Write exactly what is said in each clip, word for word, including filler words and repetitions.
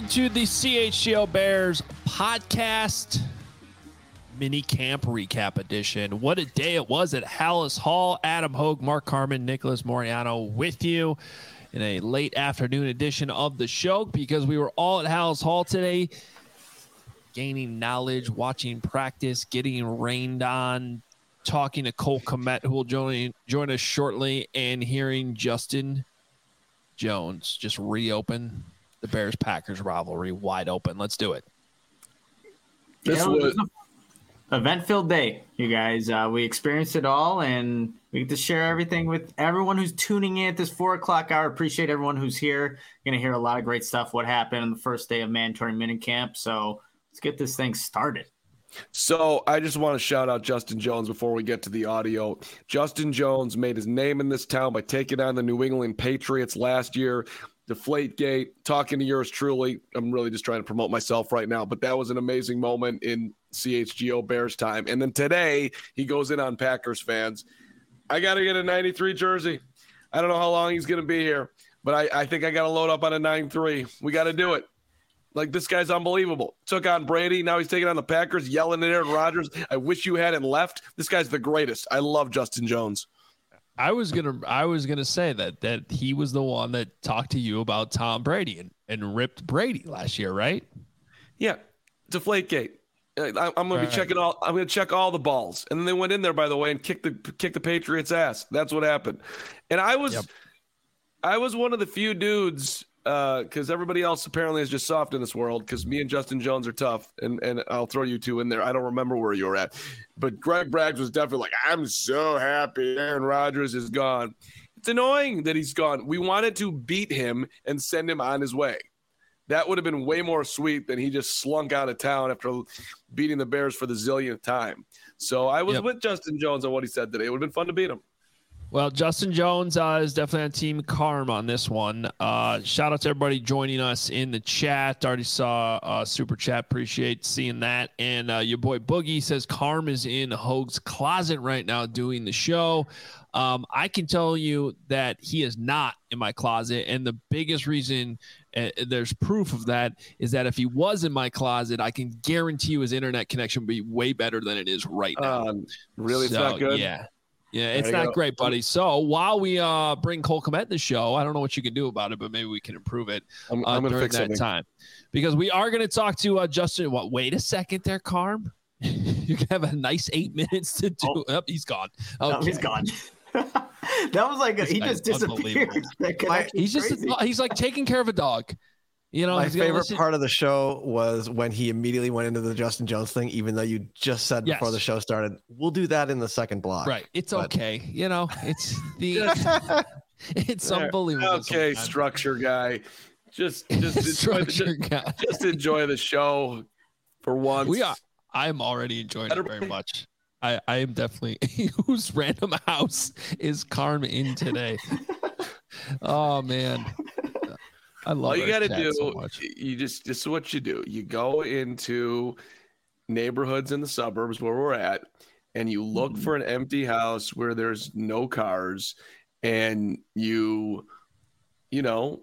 to the C H G O Bears podcast mini camp recap edition. What a day it was at Halas Hall. Adam Hogue, Mark Carman, Nicholas Moriano with you in a late afternoon edition of the show because we were all at Halas Hall today, gaining knowledge, watching practice, getting rained on, talking to Cole Kmet, who will join, join us shortly, and hearing Justin Jones just reopen the Bears-Packers rivalry wide open. Let's do it. This yeah, was an event-filled day, you guys. Uh, we experienced it all, and we get to share everything with everyone who's tuning in at this four o'clock hour. Appreciate everyone who's here. You're going to hear a lot of great stuff, what happened on the first day of mandatory minicamp. So let's get this thing started. So I just want to shout out Justin Jones before we get to the audio. Justin Jones made his name in this town by taking on the New England Patriots last year. Deflategate, talking to yours truly. I'm really just trying to promote myself right now, but that was an amazing moment in C H G O Bears time. And then today he goes in on Packers fans. I got to get a ninety-three jersey. I don't know how long he's going to be here, but I, I think I got to load up on a nine three. We got to do it. Like, this guy's unbelievable. Took on Brady. Now he's taking on the Packers, yelling at Aaron Rodgers. I wish you hadn't left. This guy's the greatest. I love Justin Jones. I was gonna, I was gonna say that that he was the one that talked to you about Tom Brady and, and ripped Brady last year, right? Yeah, Deflategate. I, I'm gonna all be right. checking all. I'm gonna check all the balls, and then they went in there, by the way, and kicked the kicked the Patriots' ass. That's what happened. And I was, yep. I was one of the few dudes. Because uh, everybody else apparently is just soft in this world, because me and Justin Jones are tough, and, and I'll throw you two in there. I don't remember where you were at. But Greg Braggs was definitely like, I'm so happy Aaron Rodgers is gone. It's annoying that he's gone. We wanted to beat him and send him on his way. That would have been way more sweet than he just slunk out of town after beating the Bears for the zillionth time. So I was yep. with Justin Jones on what he said today. It would have been fun to beat him. Well, Justin Jones uh, is definitely on Team Carm on this one. Uh, shout out to everybody joining us in the chat. Already saw uh, Super Chat. Appreciate seeing that. And uh, your boy Boogie says Carm is in Hogue's closet right now doing the show. Um, I can tell you that he is not in my closet. And the biggest reason uh, there's proof of that is that if he was in my closet, I can guarantee you his internet connection would be way better than it is right now. Um, really? So, it's not good? Yeah. Yeah, it's not go. great, buddy. So while we uh, bring Cole Kmet in the show, I don't know what you can do about it, but maybe we can improve it I'm, uh, I'm during fix that something. time. Because we are going to talk to uh, Justin. What? Wait a second there, Carm. You can have a nice eight minutes to do. Oh, oh he's gone. Okay. No, he's gone. That was like a, he just disappeared. He's just a, he's like taking care of a dog. You know, my favorite part of the show was when he immediately went into the Justin Jones thing, even though you just said yes. before the show started, we'll do that in the second block. Right. It's but. okay. You know, it's the, it's unbelievable. Okay. Sometimes. Structure guy. Just, just, enjoy the, guy. just enjoy the show for once. We are. I'm already enjoying it very much. I, I am definitely whose random house is Carm in today? Oh man. I love all you got to do. So you just this is what you do. You go into neighborhoods in the suburbs where we're at, and you look mm-hmm. for an empty house where there's no cars, and you, you know,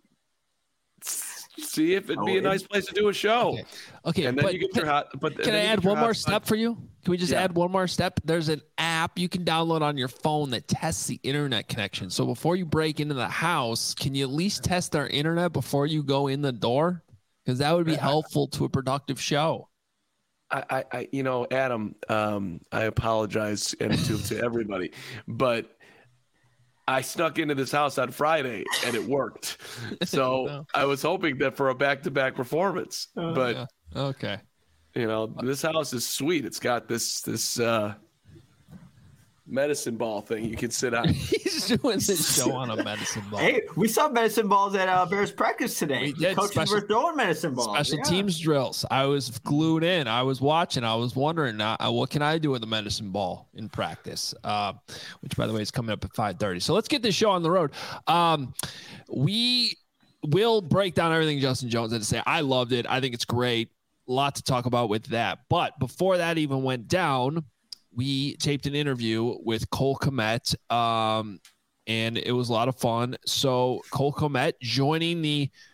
see if it'd oh, be a nice place to do a show. Okay, okay and then you get can, your hot. But can I add one more step for you? Can we just yeah. add one more step? There's an app you can download on your phone that tests the internet connection. So before you break into the house, can you at least test our internet before you go in the door? Because that would be helpful to a productive show. I, I, I you know, Adam, um, I apologize and to, to everybody, but I snuck into this house on Friday and it worked. So no. I was hoping that for a back-to-back performance, uh, but yeah. okay. You know, this house is sweet. It's got this this uh, medicine ball thing you can sit on. He's doing this show on a medicine ball. Hey, we saw medicine balls at uh, Bears practice today. We did. Coaches special, were throwing medicine balls. Special yeah. teams drills. I was glued in. I was watching. I was wondering, uh, what can I do with a medicine ball in practice? Uh, which, by the way, is coming up at five thirty. So let's get this show on the road. Um, we will break down everything Justin Jones had to say. I loved it. I think it's great. A lot to talk about with that. But before that even went down, we taped an interview with Cole Kmet, um, and it was a lot of fun. So Cole Kmet joining the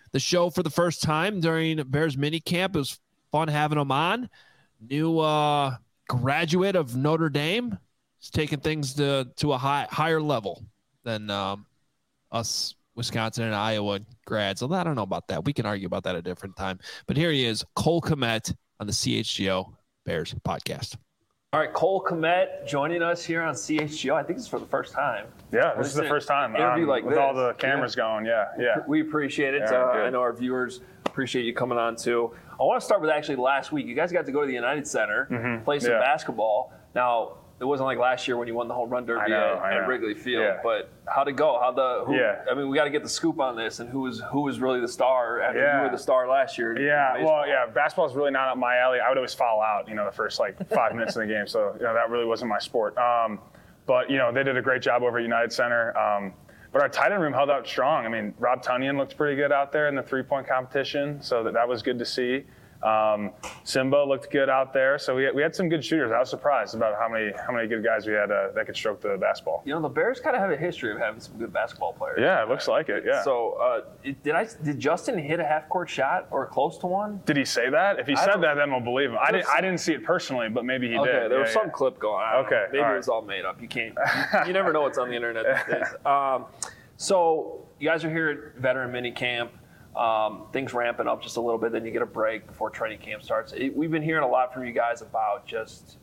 the show for the first time during Bears mini camp. It was fun having him on. New uh, graduate of Notre Dame. He's taking things to, to a high, higher level than um, us Wisconsin and Iowa grads. Although I don't know about that. We can argue about that at a different time. But here he is, Cole Kmet on the C H G O Bears podcast. All right, Cole Kmet joining us here on C H G O. I think it's for the first time. Yeah, this is the first time. Interview um, like with this. all the cameras yeah. going. Yeah, yeah. We appreciate it. Yeah, uh, I know our viewers appreciate you coming on too. I want to start with actually last week. You guys got to go to the United Center, mm-hmm. play some yeah. basketball. Now, it wasn't like last year when you won the home run derby know, at, at Wrigley Field. Yeah. But how'd it go? How the? Who, yeah. I mean, we got to get the scoop on this and who was who was really the star after yeah. you were the star last year. Yeah. Well, yeah. Basketball is really not up my alley. I would always foul out, you know, the first like five minutes of the game. So you know that really wasn't my sport. Um, but you know they did a great job over at United Center. Um, but our tight end room held out strong. I mean, Rob Tunyon looked pretty good out there in the three-point competition, so that, that was good to see. Um, Simba looked good out there, so we had, we had some good shooters. I was surprised about how many how many good guys we had uh, that could stroke the basketball. You know, the Bears kind of have a history of having some good basketball players. Yeah, it looks like it. Yeah. So, uh, did I did Justin hit a half court shot or close to one? Did he say that? If he I said that, then we'll believe him. I didn't. some, I didn't see it personally, but maybe he okay, did. Okay, there yeah, was some yeah. clip going on. Okay, Maybe all it was all made up. You can't. You, you never know what's on the internet these days. Um, so you guys are here at veteran mini camp. Um, things ramping up just a little bit, then you get a break before training camp starts. It, we've been hearing a lot from you guys about just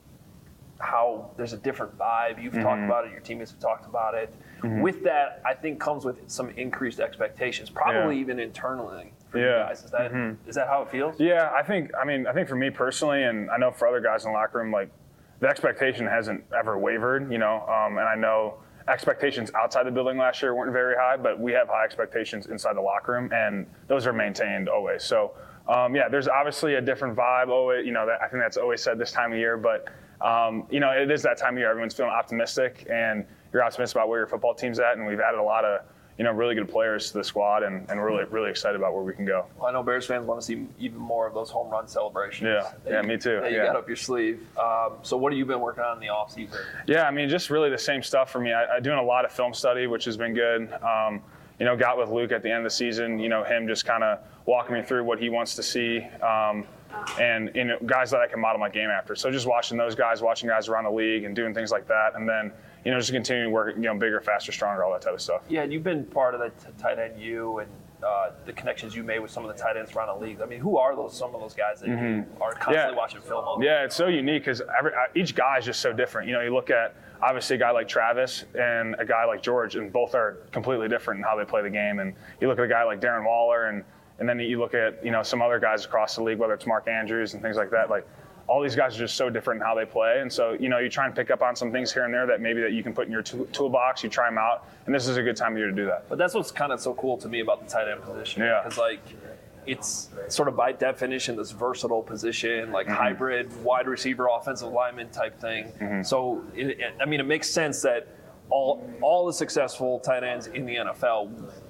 how there's a different vibe. You've mm-hmm. talked about it, your teammates have talked about it. Mm-hmm. With that, I think comes with some increased expectations, probably yeah. even internally for yeah. you guys. Is that mm-hmm. is that how it feels? Yeah, I think. I mean, I think for me personally, and I know for other guys in the locker room, like the expectation hasn't ever wavered. You know, um, and I know. Expectations outside the building last year weren't very high, but we have high expectations inside the locker room, and those are maintained always. So, um, yeah, there's obviously a different vibe. Always, you know, that, I think that's always said this time of year, but um, you know, it is that time of year. Everyone's feeling optimistic, and you're optimistic about where your football team's at, and we've added a lot of you know really good players to the squad, and, and we're really really excited about where we can go. Well, I know Bears fans want to see even more of those home run celebrations. Yeah, yeah, you, me too. That you yeah. got up your sleeve. Um, so what have you been working on in the off season? Yeah, I mean, just really the same stuff for me. I, I'm doing a lot of film study, which has been good. Um, you know, got with Luke at the end of the season. You know, him just kind of walking me through what he wants to see. Um, and you know, guys that I can model my game after. So just watching those guys, watching guys around the league and doing things like that. And then, you know, just continuing to work, you know, bigger, faster, stronger, all that type of stuff. Yeah, and you've been part of the t- tight end you and uh, the connections you made with some of the tight ends around the league. I mean, who are those? Some of those guys that mm-hmm. you are constantly yeah. watching film of? Yeah, it's so unique because each guy is just so different. You know, you look at obviously a guy like Travis and a guy like George, and both are completely different in how they play the game. And you look at a guy like Darren Waller, and and then you look at you know some other guys across the league, whether it's Mark Andrews and things like that. Like all these guys are just so different in how they play, and so you know you try and pick up on some things here and there that maybe that you can put in your t- toolbox. You try them out, and this is a good time of year to do that. But that's what's kind of so cool to me about the tight end position. Yeah, because like it's sort of by definition this versatile position, like mm-hmm. hybrid wide receiver, offensive lineman type thing. Mm-hmm. So it, it, I mean, it makes sense that all all the successful tight ends in the N F L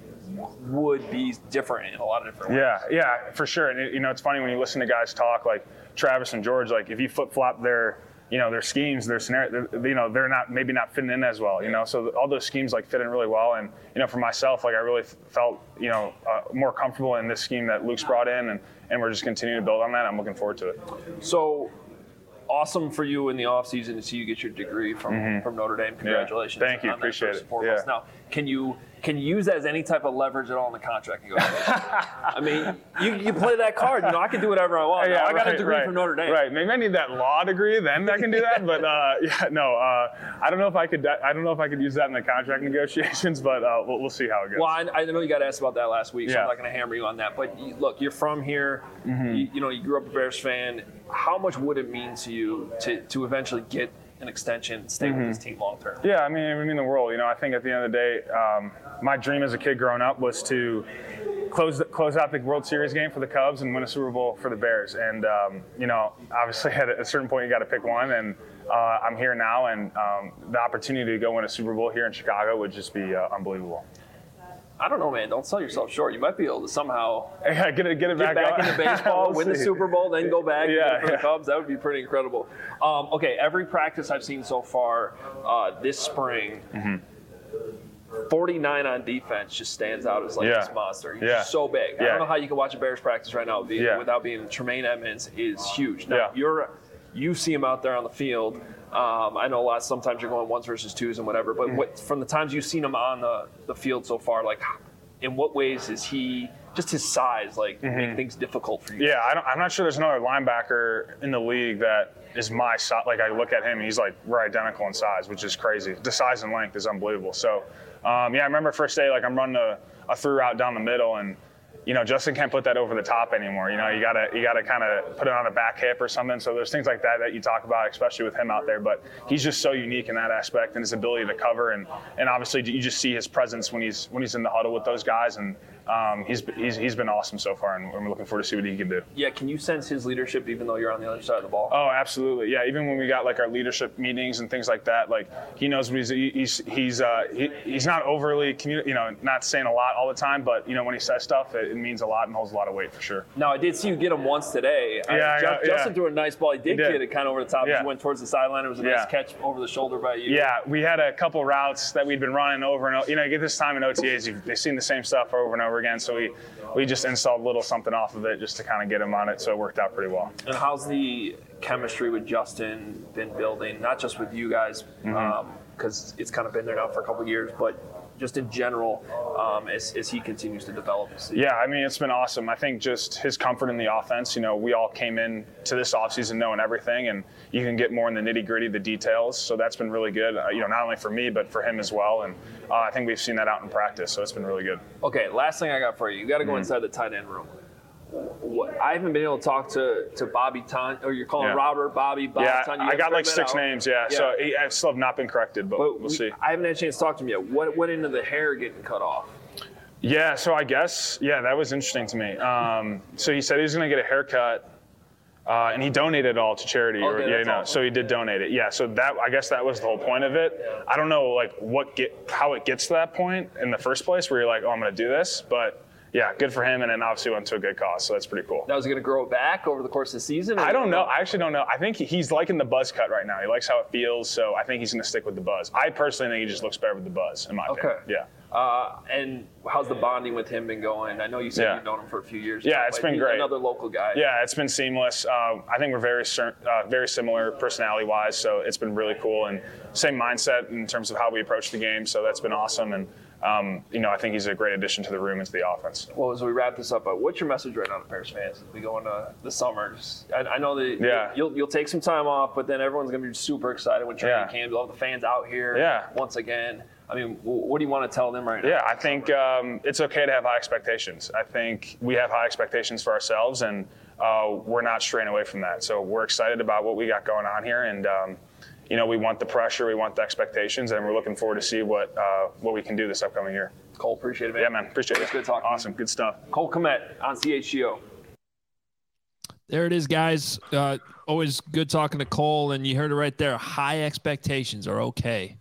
would be different in a lot of different ways. Yeah, yeah, for sure. And it, you know, it's funny when you listen to guys talk like Travis and George. Like if you flip flop their, you know, their schemes, their scenario, you know, they're not maybe not fitting in as well. You know, so all those schemes like fit in really well. And you know, for myself, like I really felt you know uh, more comfortable in this scheme that Luke's brought in, and and we're just continuing to build on that. I'm looking forward to it. So. Awesome for you in the offseason to see you get your degree from, mm-hmm. from Notre Dame. Congratulations. Yeah. Thank you. Appreciate it. Yeah. Now, can you can you use that as any type of leverage at all in the contract negotiation? I mean, you, you play that card. You know, I can do whatever I want. Yeah, now, I got right, a degree right, from Notre Dame. Right. Maybe I need that law degree, then I can do that. But uh, yeah, no, uh, I don't know if I could. I don't know if I could use that in the contract negotiations. But uh, we'll, we'll see how it goes. Well, I, I know you got asked about that last week, so yeah. I'm not going to hammer you on that. But you, look, you're from here. Mm-hmm. You, you know, you grew up a Bears fan. How much would it mean to you to, to eventually get an extension and stay mm-hmm. with this team long term? Yeah, I mean, I mean the world. You know, I think at the end of the day, um, my dream as a kid growing up was to close the, close out the World Series game for the Cubs and win a Super Bowl for the Bears. And um, you know, obviously at a certain point you got to pick one. And uh, I'm here now, and um, the opportunity to go win a Super Bowl here in Chicago would just be uh, unbelievable. I don't know, man. Don't sell yourself short. You might be able to somehow yeah, get it, get it get back, back into baseball, we'll win the see. Super Bowl, then go back yeah, for yeah. the Cubs. That would be pretty incredible. Um, okay, every practice I've seen so far uh, this spring, mm-hmm. forty-nine on defense just stands out as like Yeah. this monster. He's Yeah. so big. I Yeah. don't know how you can watch a Bears practice right now be, Yeah. without being Tremaine Edmunds is huge. Now Yeah. you're you see him out there on the field. Um, I know a lot. Sometimes you're going ones versus twos and whatever. But what, from the times you've seen him on the, the field so far, like in what ways is he just his size like Mm-hmm. make things difficult for you? Yeah, I don't, I'm not sure there's another linebacker in the league that is my size. Like I look at him, and he's like we're identical in size, which is crazy. The size and length is unbelievable. So, um, yeah, I remember first day, like I'm running a, a through route down the middle, and you know Justin can't put that over the top anymore. You know, you gotta you gotta kind of put it on the back hip or something. So there's things like that that you talk about, especially with him out there. But he's just so unique in that aspect and his ability to cover, and and obviously you just see his presence when he's when he's in the huddle with those guys, and um, he's he's he's been awesome so far, and we're looking forward to see what he can do. Yeah, can you sense his leadership even though you're on the other side of the ball? Oh, absolutely. Yeah, even when we got like our leadership meetings and things like that, like he knows what he's he's he's uh, he, he's not overly communi- you know, not saying a lot all the time, but you know when he says stuff, it, it means a lot and holds a lot of weight for sure. Now I did see you get him once today. Yeah, I, I Just, got- yeah. Justin threw a nice ball. He did, He did. get it kind of over the top. Yeah. He went towards the sideline. It was a Yeah. nice catch over the shoulder by you. Yeah, we had a couple routes that we'd been running over and over. You know, you get this time in O T As, you've, they've seen the same stuff over and over again, so we we just installed a little something off of it just to kind of get him on it, so it worked out pretty well. And how's the chemistry with Justin been building? Not just with you guys, because Mm-hmm. um, it's kind of been there now for a couple of years, but just in general, um, as, as he continues to develop. Yeah, I mean, it's been awesome. I think just his comfort in the offense, you know, we all came in to this offseason knowing everything, and you can get more in the nitty-gritty, the details. So that's been really good, uh, you know, not only for me, but for him as well. And uh, I think we've seen that out in practice, so it's been really good. Okay, last thing I got for you. You got to go Mm-hmm. inside the tight end room. What, I haven't been able to talk to, to Bobby Ton, or you're calling Yeah. Robert, Bobby, Bob yeah, Ton. You I gotta got like figure that six out. names, yeah. Yeah. So he, I still have not been corrected, but, But we'll we- see. I haven't had a chance to talk to him yet. What what into the hair getting cut off? Yeah, so I guess, yeah, that was interesting to me. Um, so he said he was going to get a haircut, uh, and he donated it all to charity. Okay, or, yeah, that's no, awesome. so he did donate it. Yeah, so that I guess that was the whole point of it. I don't know, like, what get how it gets to that point in the first place, where you're like, oh, I'm going to do this, but yeah, good for him, and then obviously went to a good cause, so that's pretty cool. Now, is he going to grow it back over the course of the season? or- I don't know. I actually don't know. I think he- he's liking the buzz cut right now. He likes how it feels, so I think he's going to stick with the buzz. I personally think he just looks better with the buzz, in my Okay. opinion. Yeah. Uh, and how's the bonding with him been going? I know you said Yeah. you've known him for a few years. Yeah, now, it's but been he's great. Another local guy. Yeah, it's been seamless. Uh, I think we're very cer- uh, very similar personality-wise, so it's been really cool. And same mindset in terms of how we approach the game, so that's been awesome. And, um, you know, I think he's a great addition to the room and to the offense. Well, as we wrap this up, uh, what's your message right now to Bears fans as we go into the summer? Just- I, I know that Yeah. you'll, you'll take some time off, but then everyone's going to be super excited when training Yeah. camp. You'll have the fans out here Yeah. once again. I mean, w- what do you want to tell them right now? Yeah, I think um, it's okay to have high expectations. I think we have high expectations for ourselves, and uh, we're not straying away from that. So we're excited about what we got going on here, and um, you know, we want the pressure, we want the expectations, and we're looking forward to see what uh, what we can do this upcoming year. Cole, appreciate it, man. Yeah, man, appreciate It's it. good talking. Awesome, good stuff. Cole Kmet on C H G O. There it is, guys. Uh, always good talking to Cole, and you heard it right there. High expectations are okay.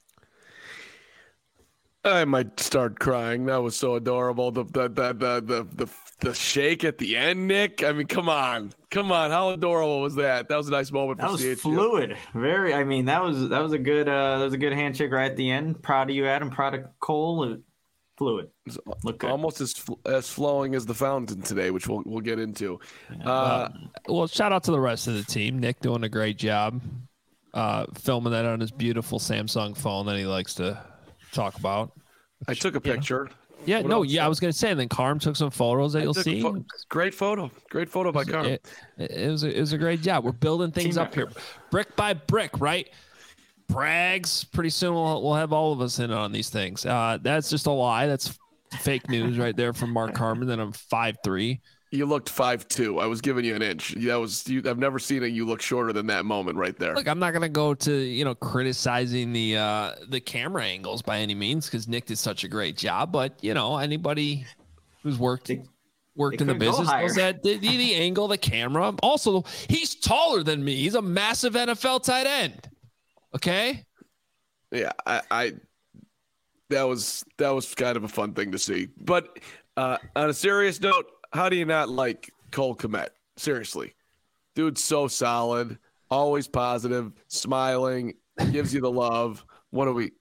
I might start crying. That was so adorable. The the the the the the, the shake at the end, Nick. I mean, come on, come on. How adorable was that? That was a nice moment for That was C H G O. fluid. Very. I mean, that was that was a good uh, that was a good handshake right at the end. Proud of you, Adam. Proud of Cole. Fluid. Look good. Almost as fl- as flowing as the fountain today, which we'll we'll get into. Uh, Well, shout out to the rest of the team. Nick doing a great job uh, filming that on his beautiful Samsung phone that he likes to talk about. I took a picture. Yeah, What no, else? yeah, I was gonna say. And then Carm took some photos that I you'll took a see. pho- great photo. Great photo by Carm. It, it was a, it was a great job. We're building things Team up here, brick by brick, right? Brags. Pretty soon we'll we'll have all of us in on these things. Uh, that's just a lie. That's fake news right there from Mark Carman. Then I'm five three. You looked five two. I was giving you an inch. That was you, I've never seen it. You look shorter than that moment right there. Look, I'm not gonna go to you know criticizing the uh, the camera angles by any means because Nick did such a great job. But you know anybody who's worked They- worked they in the could go business knows higher. that the, the, the angle, the camera. Also, he's taller than me. He's a massive N F L tight end. Okay. Yeah, I, I that was that was kind of a fun thing to see. But uh, on a serious note, how do you not like Cole Kmet? Seriously, dude's so solid, always positive, smiling, gives you the love. What do we?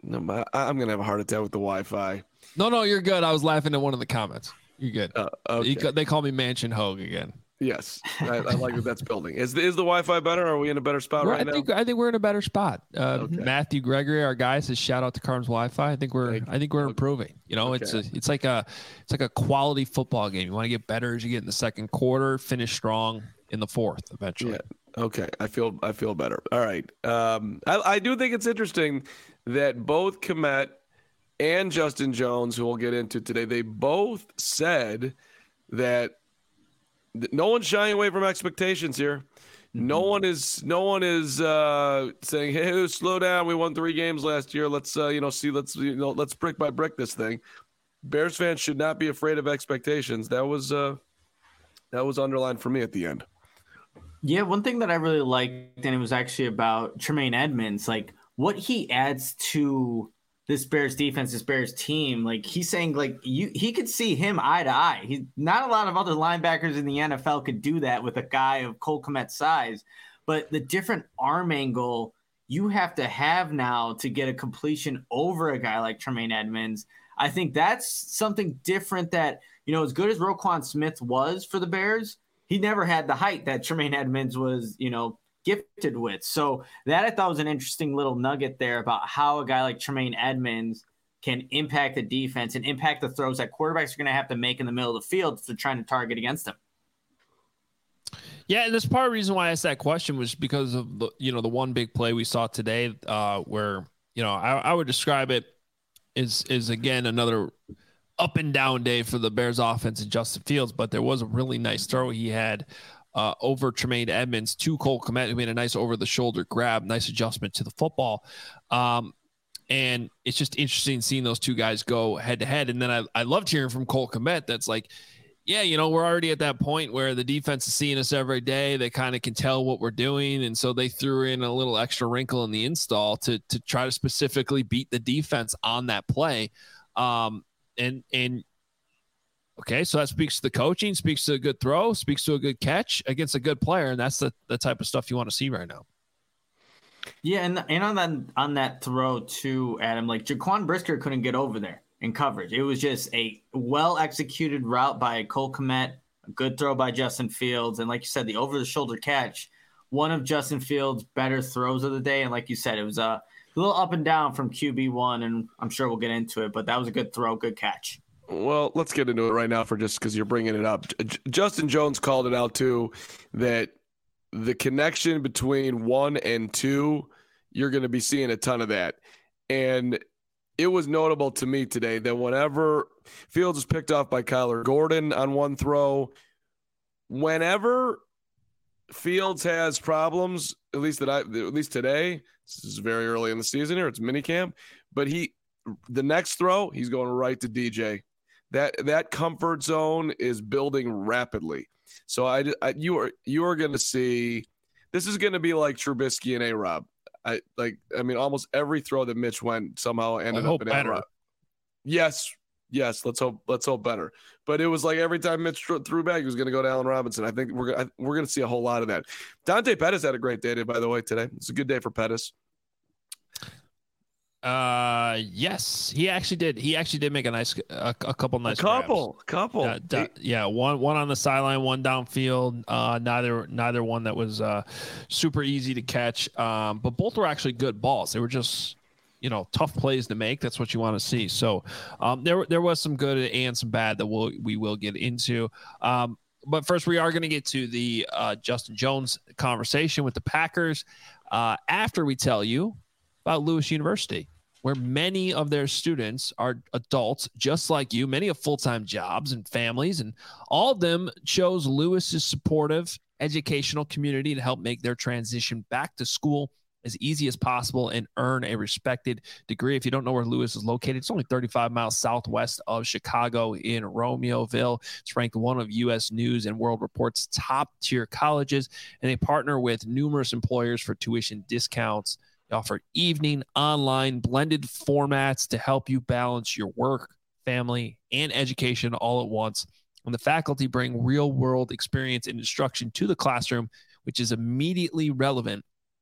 No, I'm gonna have a heart attack with the Wi-Fi. No, no, you're good. I was laughing at one of the comments. You're good. Uh, okay. you, they call me Mansion Hogue again. Yes, I, I like that that's building. Is the, is the Wi-Fi better? Or are we in a better spot we're, right I think, now? I think we're in a better spot. Uh, okay. Matthew Gregory, our guy, says shout out to Carnes Wi-Fi. I think we're I think we're improving. You know, okay. it's a, it's like a it's like a quality football game. You want to get better as you get in the second quarter, finish strong in the fourth eventually. Yeah. Okay, I feel I feel better. All right. Um, I, I do think it's interesting that both Kmet and Justin Jones, who we'll get into today, they both said that no one's shying away from expectations here. Mm-hmm. No one is. No one is uh, saying, "Hey, slow down. We won three games last year. Let's, uh, you know, see. Let's, you know, let's brick by brick this thing." Bears fans should not be afraid of expectations. That was uh, that was underlined for me at the end. Yeah, one thing that I really liked, and it was actually about Tremaine Edmunds, like what he adds to this Bears defense, this Bears team. Like he's saying, like you, he could see him eye to eye. He's not a lot of other linebackers in the N F L could do that with a guy of Cole Kmet's size, but the different arm angle you have to have now to get a completion over a guy like Tremaine Edmunds. I think that's something different that, you know, as good as Roquan Smith was for the Bears, he never had the height that Tremaine Edmunds was, you know, gifted with. So that I thought was an interesting little nugget there about how a guy like Tremaine Edmunds can impact the defense and impact the throws that quarterbacks are going to have to make in the middle of the field if they're trying to target against him. Yeah, and this part of the reason why I asked that question was because of the, you know, the one big play we saw today uh, where, you know, I, I would describe it as, is again, another up and down day for the Bears offense and Justin Fields, but there was a really nice throw he had Uh, over Tremaine Edmunds to Cole Kmet, who made a nice over-the-shoulder grab, nice adjustment to the football. Um, and it's just interesting seeing those two guys go head-to-head. And then I, I loved hearing from Cole Kmet that's like, yeah, you know, we're already at that point where the defense is seeing us every day. They kind of can tell what we're doing, and so they threw in a little extra wrinkle in the install to to try to specifically beat the defense on that play. Um, and and Okay, so that speaks to the coaching, speaks to a good throw, speaks to a good catch against a good player, and that's the, the type of stuff you want to see right now. Yeah, and and on that on that throw too, Adam, like Jaquan Brisker couldn't get over there in coverage. It was just a well executed route by Cole Kmet, a good throw by Justin Fields, and like you said, the over the shoulder catch, one of Justin Fields' better throws of the day. And like you said, it was a little up and down from Q B one, and I'm sure we'll get into it, but that was a good throw, good catch. Well, let's get into it right now for just because you're bringing it up. J- Justin Jones called it out too, that the connection between one and two, you're going to be seeing a ton of that. And it was notable to me today that whenever Fields was picked off by Kyler Gordon on one throw, whenever Fields has problems, at least that I, at least today, this is very early in the season here, it's minicamp, but he, the next throw, he's going right to D J. That that comfort zone is building rapidly. So I, I you are you are going to see this is going to be like Trubisky and A-Rob. I like I mean almost every throw that Mitch went somehow ended up in A-Rob. Yes, yes, let's hope let's hope better. But it was like every time Mitch threw back, he was going to go to Allen Robinson. I think we're we're going to see a whole lot of that. Dante Pettis had a great day, by the way, today. It's a good day for Pettis. Uh, yes, he actually did. He actually did make a nice, a, a couple nice, a couple, grabs. couple. Uh, da, yeah, one, one on the sideline, one downfield. Uh, neither, neither one that was uh super easy to catch. Um, but both were actually good balls. They were just, you know, tough plays to make. That's what you want to see. So, um, there, there was some good and some bad that we'll, we will get into. Um, but first we are going to get to the uh Justin Jones conversation with the Packers. Uh, after we tell you about Lewis University, where many of their students are adults just like you. Many have full-time jobs and families, and all of them chose Lewis's supportive educational community to help make their transition back to school as easy as possible and earn a respected degree. If you don't know where Lewis is located, it's only thirty-five miles southwest of Chicago in Romeoville. It's ranked one of U S News and World Report's top-tier colleges, and they partner with numerous employers for tuition discounts. They offer evening, online, blended formats to help you balance your work, family, and education all at once. And the faculty bring real-world experience and instruction to the classroom, which is immediately relevant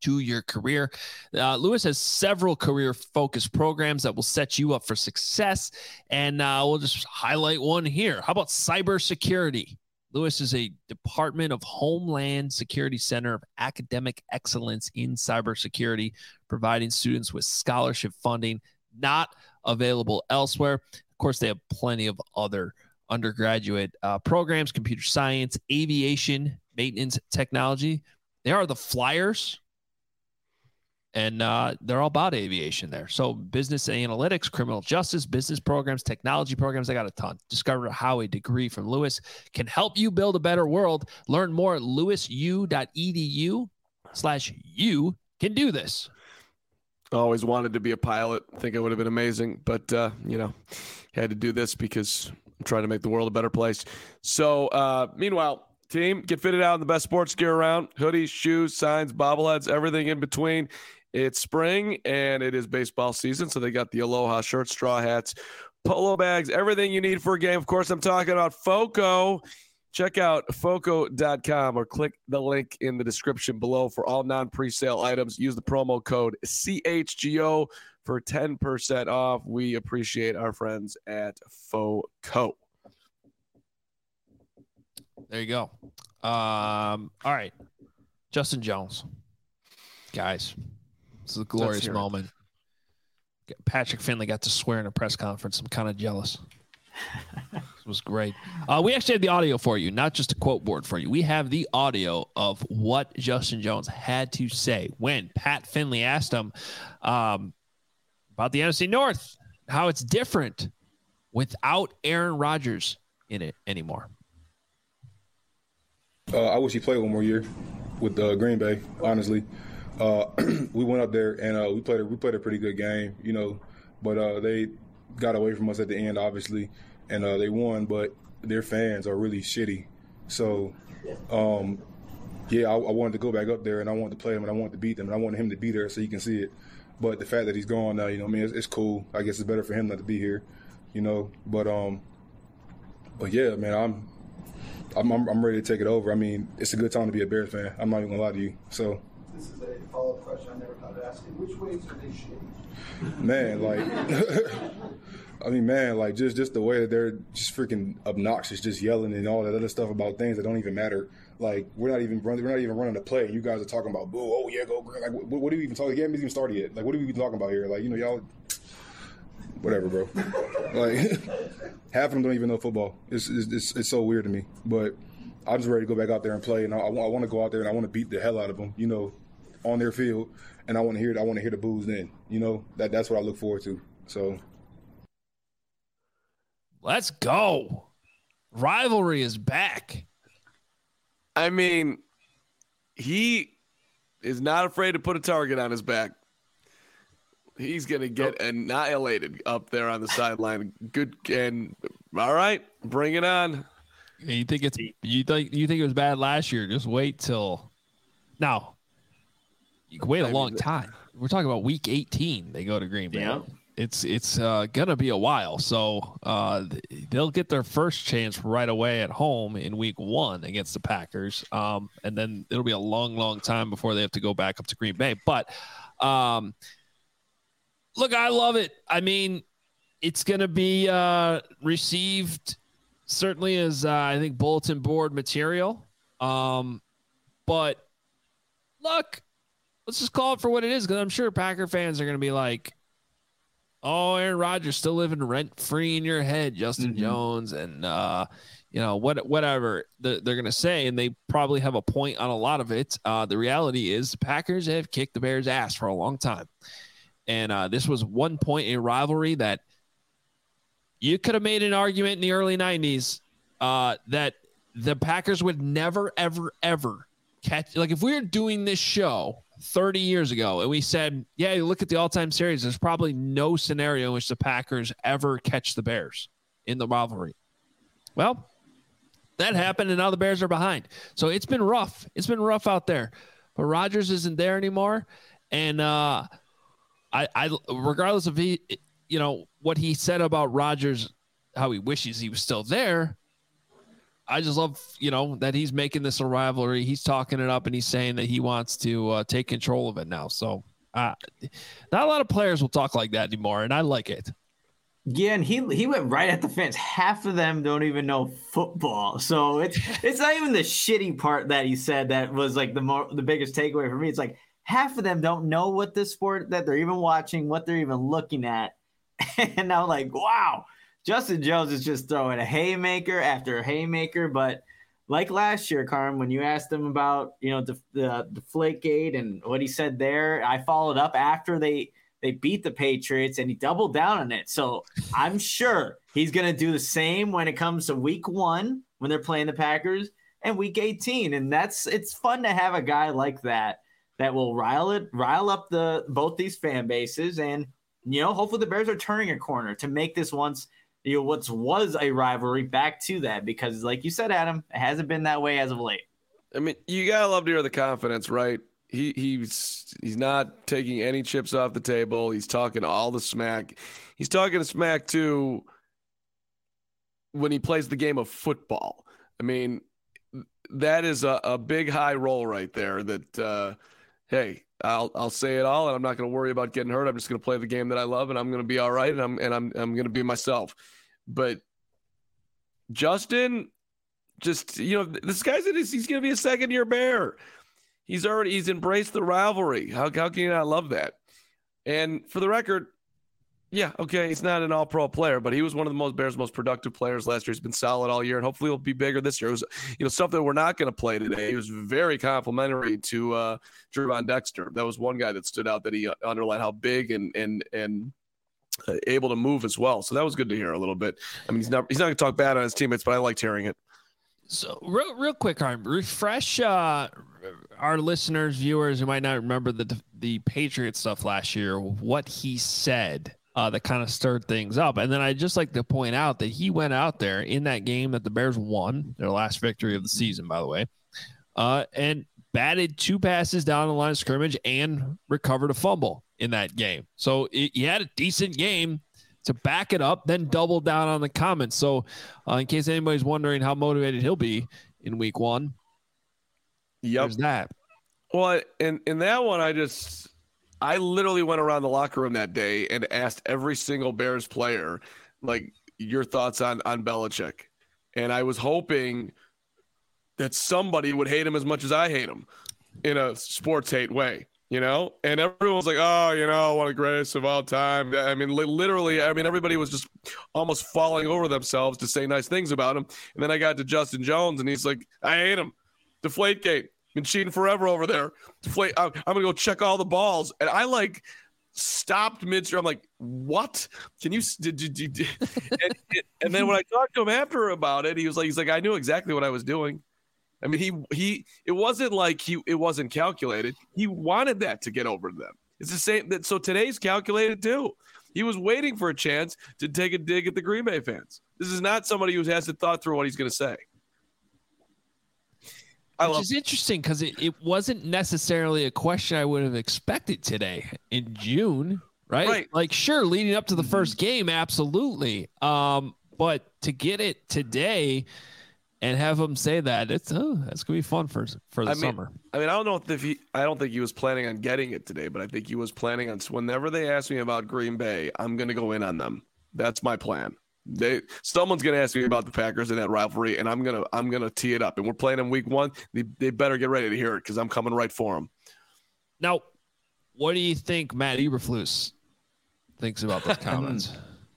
to your career. Uh, Lewis has several career-focused programs that will set you up for success, and uh, we'll just highlight one here. How about cybersecurity? Lewis is a Department of Homeland Security Center of Academic Excellence in Cybersecurity, providing students with scholarship funding not available elsewhere. Of course, they have plenty of other undergraduate uh, programs, computer science, aviation, maintenance, technology. They are the Flyers, and uh, they're all about aviation there. So business analytics, criminal justice, business programs, technology programs, I got a ton. Discover how a degree from Lewis can help you build a better world. Learn more at lewisu.edu slash you can do this. I always wanted to be a pilot. I think it would have been amazing, but, uh, you know, had to do this because I'm trying to make the world a better place. So, uh, meanwhile, team, get fitted out in the best sports gear around. Hoodies, shoes, signs, bobbleheads, everything in between. It's spring, and it is baseball season, so they got the Aloha shirts, straw hats, polo bags, everything you need for a game. Of course, I'm talking about Foco. Check out foco dot com or click the link in the description below for all non-presale items. Use the promo code C H G O for ten percent off. We appreciate our friends at Foco. There you go. Um, all right. Justin Jones. Guys, this is a glorious moment. Patrick Finley got to swear in a press conference. I'm kind of jealous. It was great. Uh, we actually have the audio for you, not just a quote board for you. We have the audio of what Justin Jones had to say when Pat Finley asked him um, about the N F C North, how it's different without Aaron Rodgers in it anymore. Uh, I wish he played one more year with uh, Green Bay, honestly. Uh, we went up there and uh, we played a, we played a pretty good game, you know, but uh, they got away from us at the end, obviously, and uh, they won, but their fans are really shitty. So, um, yeah, I, I wanted to go back up there, and I wanted to play him, and I wanted to beat them, and I wanted him to be there so you can see it. But the fact that he's gone now, you know, I mean, it's, it's cool. I guess it's better for him not to be here, you know. But, um, but yeah, man, I'm, I'm, I'm, I'm ready to take it over. I mean, it's a good time to be a Bears fan. I'm not even gonna lie to you. So. This is a follow-up question I never thought of asking. Which ways are they shitty? Man, like, I mean, man, like just, just the way that they're just freaking obnoxious, just yelling and all that other stuff about things that don't even matter. Like, we're not even running, we're not even running the play. And you guys are talking about, boo, oh yeah, go green. Like, what, what are we even talking? The game hasn't even started yet. Like, what are we even talking about here? Like, you know, y'all, whatever, bro. Like, half of them don't even know football. It's, it's, it's, it's so weird to me. But I'm just ready to go back out there and play. And I, I, I want to go out there and I want to beat the hell out of them, you know, on their field. And I want to hear, I want to hear the boos then. You know, that that's what I look forward to. So. Let's go. Rivalry is back. I mean, he is not afraid to put a target on his back. He's going to get oh. annihilated up there on the sideline. Good. And all right, bring it on. You think it's you think you think it was bad last year? Just wait till now. You can wait a long time. We're talking about week eighteen. They go to Green Bay. Yeah. It's it's uh, gonna be a while. So uh, they'll get their first chance right away at home in week one against the Packers, um, and then it'll be a long, long time before they have to go back up to Green Bay. But um, look, I love it. I mean, it's gonna be uh, received certainly as uh, I think bulletin board material. Um, but look. Let's just call it for what it is, because I'm sure Packer fans are going to be like, oh, Aaron Rodgers still living rent-free in your head, Justin mm-hmm. Jones, and, uh, you know, what, whatever they're, they're going to say, and they probably have a point on a lot of it. Uh, the reality is the Packers have kicked the Bears' ass for a long time, and uh, this was one point a rivalry that you could have made an argument in the early nineties uh, that the Packers would never, ever, ever catch. Like, if we were doing this show thirty years ago and we said, yeah, you look at the all-time series, there's probably no scenario in which the Packers ever catch the Bears in the rivalry. Well, that happened, and now the Bears are behind. So it's been rough. It's been rough out there. But Rodgers isn't there anymore. And uh, I, I, regardless of he, you know, what he said about Rodgers, how he wishes he was still there, I just love, you know, that he's making this a rivalry. He's talking it up and he's saying that he wants to uh, take control of it now. So uh, not a lot of players will talk like that anymore, and I like it. Yeah, and he he went right at the fans. Half of them don't even know football, so it's it's not even the shitty part that he said that was like the more the biggest takeaway for me. It's like half of them don't know what the sport that they're even watching, what they're even looking at, and I'm like, wow, Justin Jones is just throwing a haymaker after a haymaker. But like last year, Carm, when you asked him about you know the the Deflategate and what he said there, I followed up after they. They beat the Patriots, and he doubled down on it. So I'm sure he's going to do the same when it comes to week one when they're playing the Packers and week eighteen. And that's it's fun to have a guy like that that will rile it, rile up the both these fan bases. And, you know, hopefully the Bears are turning a corner to make this once, you know, what was a rivalry back to that. Because like you said, Adam, it hasn't been that way as of late. I mean, you got to love to hear the confidence, right? He he's he's not taking any chips off the table. He's talking all the smack. He's talking smack too when he plays the game of football. I mean, that is a, a big high roll right there. That uh, hey, I'll I'll say it all, and I'm not going to worry about getting hurt. I'm just going to play the game that I love, and I'm going to be all right, and I'm and I'm I'm going to be myself. But Justin, just you know, this guy's in his, he's going to be a second year Bear. He's already he's embraced the rivalry. How how can you not love that? And for the record, yeah, okay, he's not an all-pro player, but he was one of the most Bears' most productive players last year. He's been solid all year, and hopefully he'll be bigger this year. It was you know stuff that we're not going to play today. He was very complimentary to uh, Gervon Dexter. That was one guy that stood out that he underlined how big and and and uh, able to move as well. So that was good to hear a little bit. I mean, he's not he's not going to talk bad on his teammates, but I liked hearing it. So real, real quick, Arm, refresh uh, our listeners, viewers who might not remember the the Patriot stuff last year, what he said uh, that kind of stirred things up. And then I'd just like to point out that he went out there in that game that the Bears won, their last victory of the season, by the way, uh, and batted two passes down the line of scrimmage and recovered a fumble in that game. So it, he had a decent game to back it up, then double down on the comments. So uh, in case anybody's wondering how motivated he'll be in week one, yep. There's that. Well, in, in that one, I just, I literally went around the locker room that day and asked every single Bears player, like, your thoughts on, on Belichick. And I was hoping that somebody would hate him as much as I hate him in a sports hate way. You know, and everyone's like, oh, you know, what a greatest of all time. I mean, li- literally, I mean, everybody was just almost falling over themselves to say nice things about him. And then I got to Justin Jones, and he's like, I hate him. Deflategate. Been cheating forever over there. Deflate. I'm, I'm going to go check all the balls. And I, like, stopped midstream. I'm like, what? Can you did, did, did, did. and, and then when I talked to him after about it, he was like, he's like, I knew exactly what I was doing. I mean, he he. It wasn't like he. It wasn't calculated. He wanted that to get over to them. It's the same. That so today's calculated too. He was waiting for a chance to take a dig at the Green Bay fans. This is not somebody who hasn't thought through what he's going to say. I Which love- is interesting because it, it wasn't necessarily a question I would have expected today in June, right? Right. Like, sure, leading up to the first game, absolutely. Um, but to get it today. And have him say that it's oh that's gonna be fun for for the I mean, summer. I mean, I don't know if he. I don't think he was planning on getting it today, but I think he was planning on. Whenever they ask me about Green Bay, I'm gonna go in on them. That's my plan. They someone's gonna ask me about the Packers in that rivalry, and I'm gonna I'm gonna tee it up. And we're playing in week one. They they better get ready to hear it because I'm coming right for them. Now, what do you think Matt Eberflus thinks about those comments?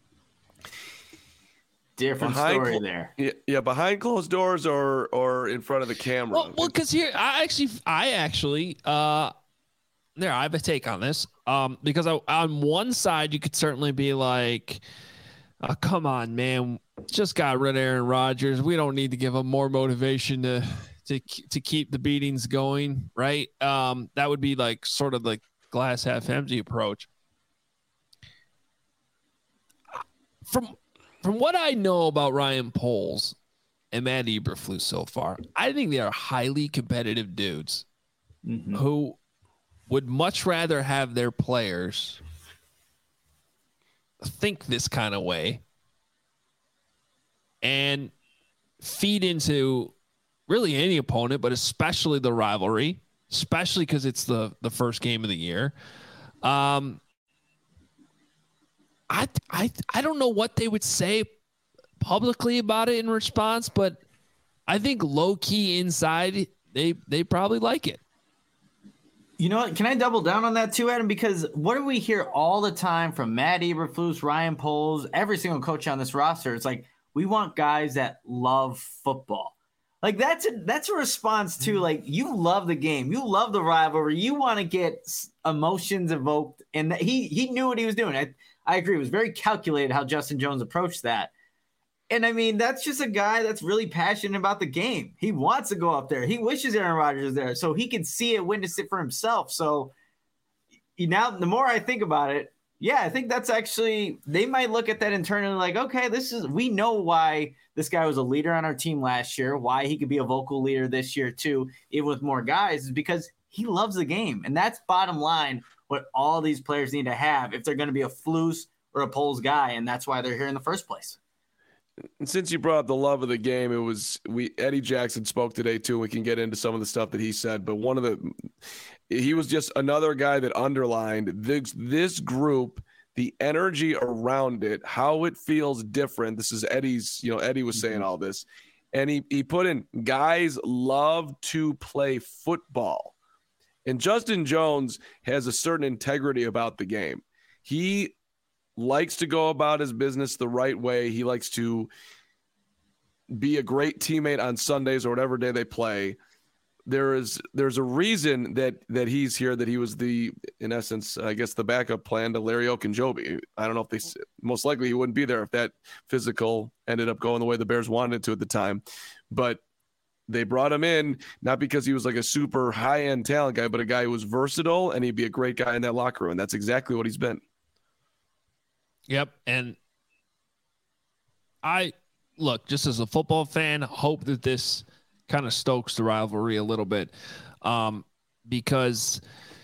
Different behind story clo- there. Yeah, yeah, behind closed doors or or in front of the camera. Well, well, because here I actually, I actually, uh, there I have a take on this. Um, because I, on one side you could certainly be like, oh, come on, man, just got rid of Aaron Rodgers. We don't need to give him more motivation to to to keep the beatings going, right? Um, that would be like sort of the glass half empty approach. From From what I know about Ryan Poles and Matt Eberflus so far, I think they are highly competitive dudes mm-hmm. who would much rather have their players think this kind of way and feed into really any opponent, but especially the rivalry, especially because it's the, the first game of the year. Um, I, I, I don't know what they would say publicly about it in response, but I think low key inside, they, they probably like it. You know what? Can I double down on that too, Adam? Because what do we hear all the time from Matt Eberflus, Ryan Poles, every single coach on this roster? It's like, we want guys that love football. Like that's a, that's a response to like, you love the game. You love the rivalry. You want to get emotions evoked. And he, he knew what he was doing. I, I agree. It was very calculated how Justin Jones approached that. And I mean, that's just a guy that's really passionate about the game. He wants to go up there. He wishes Aaron Rodgers was there so he can see it, witness it for himself. So now the more I think about it, yeah, I think that's actually, they might look at that internally like, okay, this is, we know why this guy was a leader on our team last year, why he could be a vocal leader this year too, even with more guys, is because he loves the game. And that's bottom line what all these players need to have if they're going to be a Flus or a Poles guy. And that's why they're here in the first place. And since you brought up the love of the game, it was we Eddie Jackson spoke today too. We can get into some of the stuff that he said, but one of the he was just another guy that underlined this this group, the energy around it, how it feels different. This is Eddie's, you know, Eddie was saying all this, and he he put in guys love to play football, and Justin Jones has a certain integrity about the game. He likes to go about his business the right way. He likes to be a great teammate on Sundays or whatever day they play. There is there's a reason that that he's here, that he was the, in essence, I guess, the backup plan to Larry Ogunjobi. I don't know if they, most likely he wouldn't be there if that physical ended up going the way the Bears wanted it to at the time. But they brought him in, not because he was like a super high-end talent guy, but a guy who was versatile, and he'd be a great guy in that locker room. And that's exactly what he's been. Yep. And I, look, just as a football fan, hope that this kind of stokes the rivalry a little bit, um, because,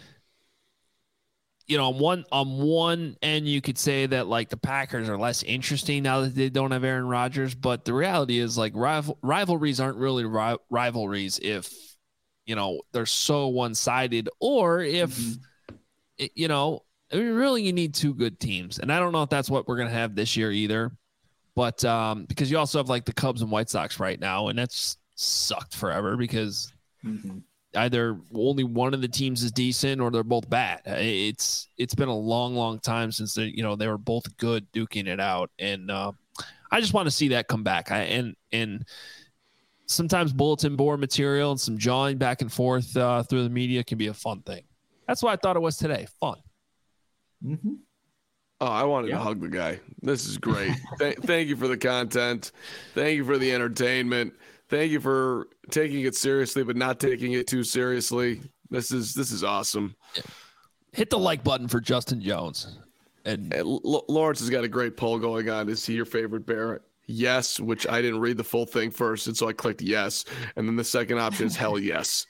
you know, on one, on one end, you could say that, like, the Packers are less interesting now that they don't have Aaron Rodgers, but the reality is, like, rival, rivalries aren't really ri- rivalries if, you know, they're so one-sided, or if, mm-hmm. it, you know, I mean, really, you need two good teams. And I don't know if that's what we're going to have this year either. But um, because you also have like the Cubs and White Sox right now, and that's sucked forever because mm-hmm. either only one of the teams is decent or they're both bad. It's it's been a long, long time since they, you know, they were both good duking it out. And uh, I just want to see that come back. I, and and sometimes bulletin board material and some jawing back and forth uh, through the media can be a fun thing. That's what I thought it was today. Fun. Mm-hmm. Oh, I wanted yeah. to hug the guy. This is great. Th- thank you for the content. Thank you for the entertainment. Thank you for taking it seriously, but not taking it too seriously. This is this is awesome. Hit the like button for Justin Jones. And hey, L- Lawrence has got a great poll going on. Is he your favorite Bear? Yes, which I didn't read the full thing first, and so I clicked yes. And then the second option is hell yes.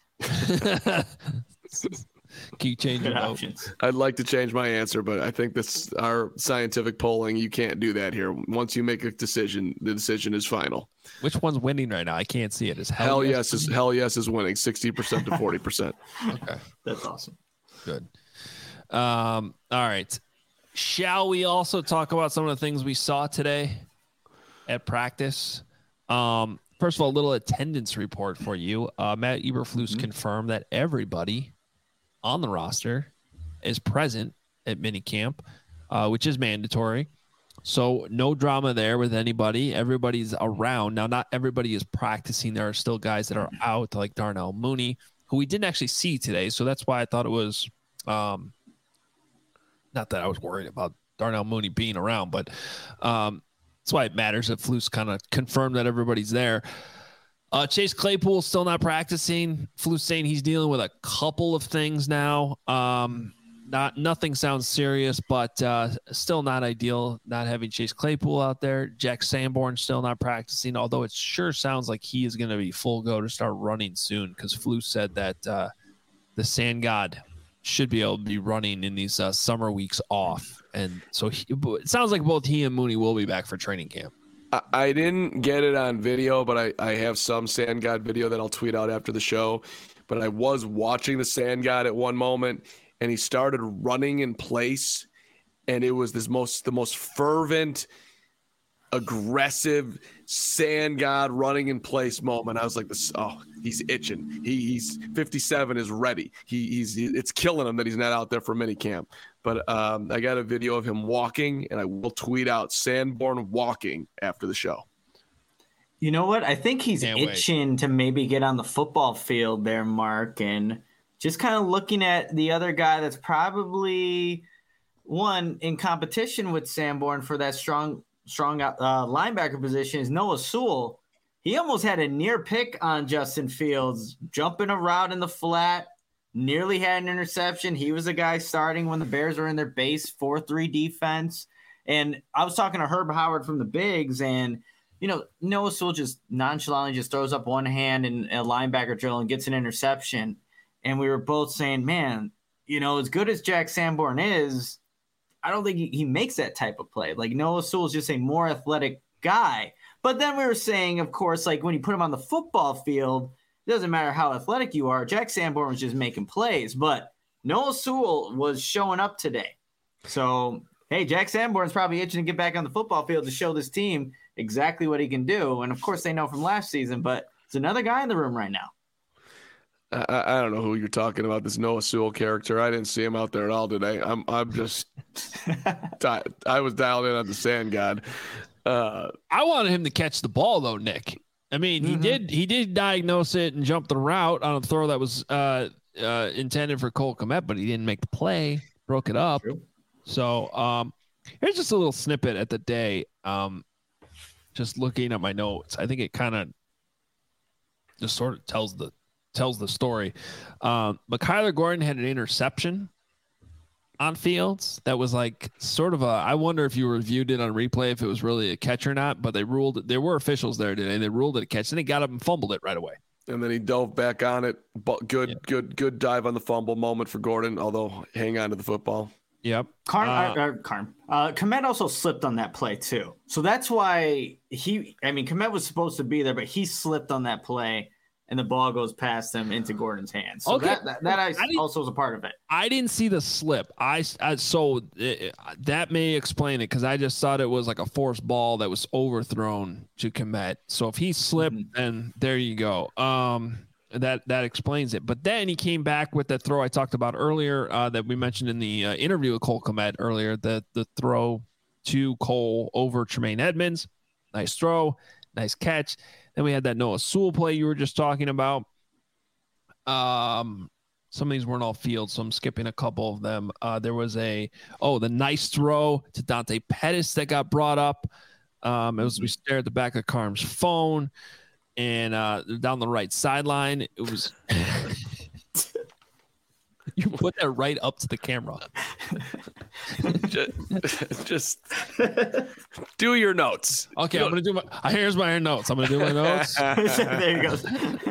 Can you change your options? I'd like to change my answer, but I think this our scientific polling, you can't do that here. Once you make a decision, the decision is final. Which one's winning right now? I can't see it. Is hell, hell yes, yes is hell yes is winning sixty percent to forty percent. Okay. That's awesome. Good. Um, all right. Shall we also talk about some of the things we saw today at practice? Um, first of all, a little attendance report for you. Uh, Matt Eberflus mm-hmm. confirmed that everybody on the roster is present at minicamp, uh, which is mandatory. So no drama there with anybody. Everybody's around. Now, not everybody is practicing. There are still guys that are out, like Darnell Mooney, who we didn't actually see today. So that's why I thought it was um, not that I was worried about Darnell Mooney being around, but um, that's why it matters that Flus kind of confirmed that everybody's there. Uh, Chase Claypool still not practicing. Flus saying he's dealing with a couple of things now. Um, not nothing sounds serious, but uh, still not ideal not having Chase Claypool out there. Jack Sanborn still not practicing, although it sure sounds like he is going to be full go to start running soon because Flus said that uh, the Sand God should be able to be running in these uh, summer weeks off. And so he, it sounds like both he and Mooney will be back for training camp. I, I didn't get it on video, but I, I have some Sand God video that I'll tweet out after the show. But I was watching the Sand God at one moment, and he started running in place, and it was this most the most fervent, aggressive Sand God running in place moment. I was like, "This, oh, he's itching. He, he's fifty-seven, is ready. He, he's it's killing him that he's not out there for minicamp." But um, I got a video of him walking, and I will tweet out Sanborn walking after the show. You know what? I think he's Can't itching wait. to maybe get on the football field there, Mark, and just kind of looking at the other guy that's probably one in competition with Sanborn for that strong, strong uh, linebacker position is Noah Sewell. He almost had a near pick on Justin Fields, jumping a route in the flat, nearly had an interception. He was the guy starting when the Bears were in their base four three defense. And I was talking to Herb Howard from the Bigs, and you know, Noah Sewell just nonchalantly just throws up one hand in a linebacker drill and gets an interception. And we were both saying, man, you know, as good as Jack Sanborn is, I don't think he, he makes that type of play. Like, Noah Sewell is just a more athletic guy. But then we were saying, of course, like when you put him on the football field, it doesn't matter how athletic you are. Jack Sanborn was just making plays. But Noah Sewell was showing up today. So, hey, Jack Sanborn's probably itching to get back on the football field to show this team exactly what he can do. And of course they know from last season, but it's another guy in the room right now. I, I don't know who you're talking about, this Noah Sewell character. I didn't see him out there at all today. I'm I'm just di- I was dialed in on the Sand God. Uh, I wanted him to catch the ball though, Nick. I mean, he mm-hmm. did he did diagnose it and jump the route on a throw that was uh, uh, intended for Cole Kmet, but he didn't make the play, broke it up. True. So um, here's just a little snippet at the day. Um, just looking at my notes, I think it kind of just sort of tells the tells the story. Um, but Kyler Gordon had an interception on Fields that was like sort of a, I wonder if you reviewed it on replay, if it was really a catch or not, but they ruled, there were officials there today, and they ruled it a catch, and he got up and fumbled it right away. And then he dove back on it. But good, yeah. good, good dive on the fumble moment for Gordon, although hang on to the football. Yep. Carm, uh, uh, Carm. Uh, Kmet also slipped on that play too. So that's why he, I mean, Kmet was supposed to be there, but he slipped on that play, and the ball goes past him into Gordon's hands. So okay. that, that, that I, I also was a part of it. I didn't see the slip. I, I so it, that may explain it, because I just thought it was like a forced ball that was overthrown to Kmet. So if he slipped, mm-hmm. then there you go. Um, that that explains it. But then he came back with that throw I talked about earlier, uh, that we mentioned in the uh, interview with Cole Kmet earlier. The the throw to Cole over Tremaine Edmonds, nice throw, nice catch. Then we had that Noah Sewell play you were just talking about. Um, some of these weren't all field, so I'm skipping a couple of them. Uh, there was a, oh, the nice throw to Dante Pettis that got brought up. Um, as we stared at the back of Carm's phone, and uh, down the right sideline, it was. You put that right up to the camera. just, just do your notes. Okay, you I'm gonna do my. Here's my notes. I'm gonna do my notes. There you go.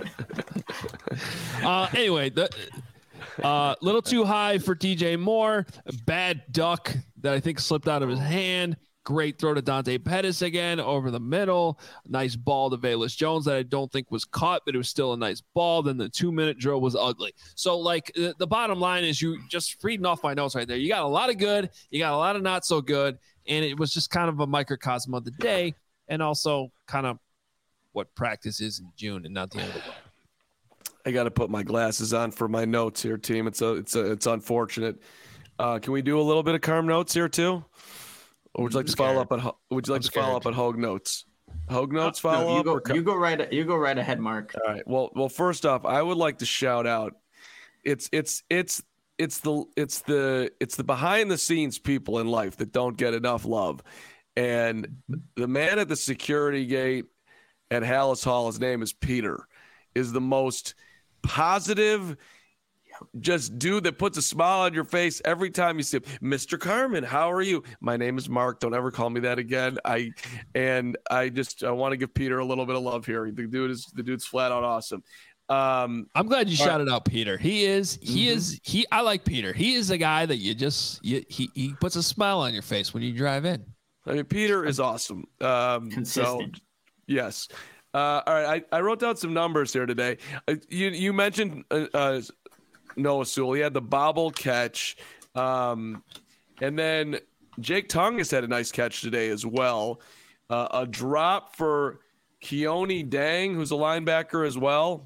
uh, anyway, the uh, little too high for D J Moore. Bad duck that I think slipped out of his hand. Great throw to Dante Pettis again over the middle. Nice ball to Velus Jones that I don't think was caught, but it was still a nice ball. Then the two-minute drill was ugly. So, like, the, the bottom line is, you just reading off my notes right there. You got a lot of good. You got a lot of not so good. And it was just kind of a microcosm of the day, and also kind of what practice is in June and not the end of the way. I got to put my glasses on for my notes here, team. It's a, it's a, it's unfortunate. Uh, can we do a little bit of Carm notes here too? Or would you like to follow up on? Would you like to follow up on Hogue notes? Hogue notes follow no, you up. Go, or... You go right. You go right ahead, Mark. All right. Well, well. First off, I would like to shout out. It's it's it's it's the it's the it's the behind the scenes people in life that don't get enough love, and the man at the security gate at Halas Hall, his name is Peter, is the most positive. Just dude that puts a smile on your face every time you see him. Mister Carman, how are you? My name is Mark. Don't ever call me that again. I and I just I want to give Peter a little bit of love here. The dude is the dude's flat out awesome. Um, I'm glad you shouted out Peter. He is he mm-hmm. is he. I like Peter. He is a guy that you just you, he he puts a smile on your face when you drive in. I mean, Peter is awesome. Um, Consistent. So, yes. Uh, all right. I, I wrote down some numbers here today. Uh, you you mentioned uh, uh, Noah Sewell. He had the bobble catch. Um, and then Jake Tongas had a nice catch today as well. Uh, a drop for Keone Dang, who's a linebacker as well.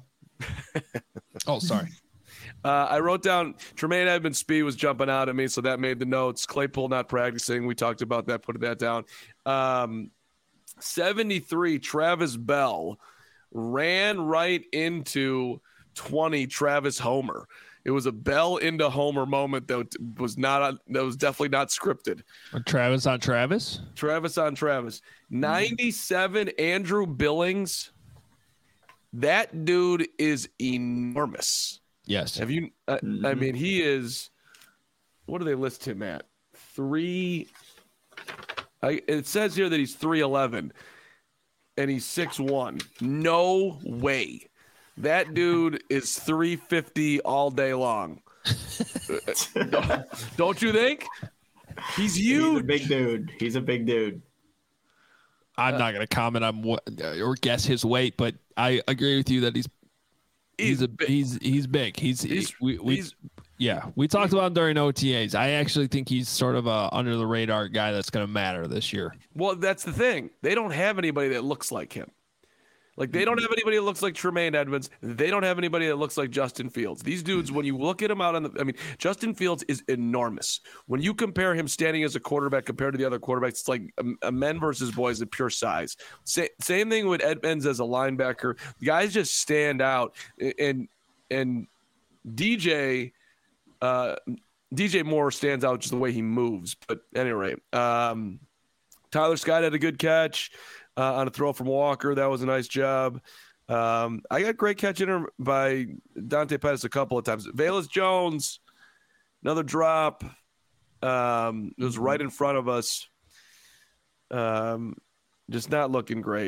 Oh, sorry. Uh, I wrote down Tremaine Edmonds' speed was jumping out at me, so that made the notes. Claypool not practicing. We talked about that, putting that down. Um, seventy-three, Travis Bell ran right into twenty, Travis Homer. It was a Bell into Homer moment that was not that was definitely not scripted. Travis on Travis? Travis on Travis. ninety-seven, Andrew Billings. That dude is enormous. Yes. Have you? Uh, mm-hmm. I mean, he is. What do they list him at? Three. I, it says here that he's three eleven, and he's six one. No way. That dude is three fifty all day long. don't, don't you think? He's huge. He's a big dude. He's a big dude. I'm not going to comment on what or guess his weight, but I agree with you that he's he's, he's a big. he's he's big. He's, he's we, we he's, yeah. We talked about him during O T As. I actually think he's sort of a under the radar guy that's going to matter this year. Well, that's the thing. They don't have anybody that looks like him. Like, they don't have anybody that looks like Tremaine Edmonds. They don't have anybody that looks like Justin Fields. These dudes, when you look at him out on the – I mean, Justin Fields is enormous. When you compare him standing as a quarterback compared to the other quarterbacks, it's like a, a men versus boys in pure size. Sa- same thing with Edmonds as a linebacker. The guys just stand out. And and D J uh, D J Moore stands out just the way he moves. But anyway, um, Tyler Scott had a good catch. Uh, on a throw from Walker. That was a nice job. Um, I got great catch in her by Dante Pettis a couple of times. Velus Jones, another drop. Um, it was right in front of us. Um, just not looking great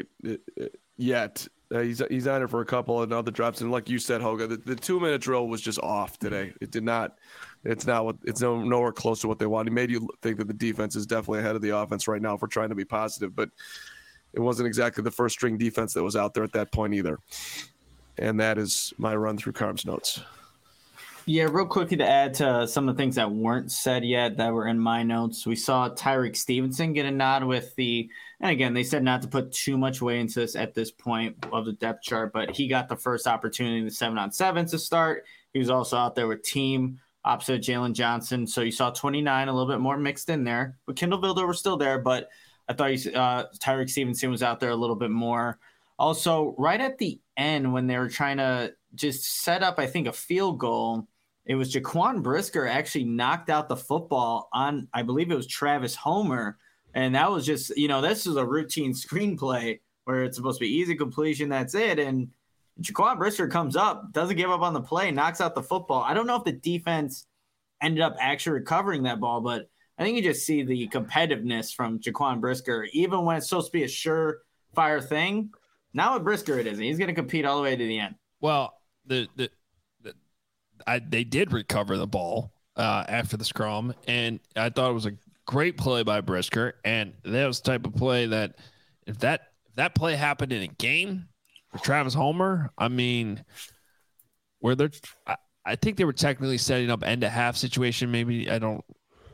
yet. Uh, he's he's on it for a couple of other drops. And like you said, Hoga, the, the two-minute drill was just off today. It did not – it's not what it's no, nowhere close to what they want. It made you think that the defense is definitely ahead of the offense right now if we're trying to be positive. But – it wasn't exactly the first string defense that was out there at that point either. And that is my run through Carm's notes. Yeah, real quickly to add to some of the things that weren't said yet that were in my notes. We saw Tyreek Stevenson get a nod with the, and again, they said not to put too much weight into this at this point of the depth chart, but he got the first opportunity in the seven on seven to start. He was also out there with team opposite Jalen Johnson. So you saw twenty-nine, a little bit more mixed in there. But Kindle Builder was still there, but I thought he, uh, Tyreek Stevenson was out there a little bit more. Also, right at the end when they were trying to just set up, I think, a field goal, it was Jaquan Brisker actually knocked out the football on, I believe it was Travis Homer. And that was just, you know, this is a routine screenplay where it's supposed to be easy completion, that's it. And Jaquan Brisker comes up, doesn't give up on the play, knocks out the football. I don't know if the defense ended up actually recovering that ball, but I think you just see the competitiveness from Jaquan Brisker, even when it's supposed to be a surefire thing. Now with Brisker, it isn't. He's going to compete all the way to the end. Well, the the, the I, they did recover the ball uh, after the scrum, and I thought it was a great play by Brisker. And that was the type of play that if that if that play happened in a game for Travis Homer, I mean, where they're, I, I think they were technically setting up end to half situation. Maybe I don't.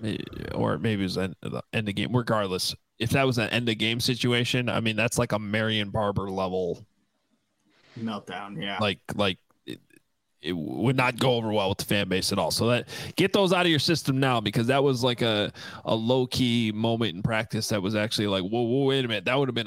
Or maybe it was an end of game. Regardless, if that was an end of game situation, I mean, that's like a Marion Barber level meltdown. Yeah. Like, like it, it would not go over well with the fan base at all. So that get those out of your system now, because that was like a, a low key moment in practice. That was actually like, whoa, whoa, wait a minute. That would have been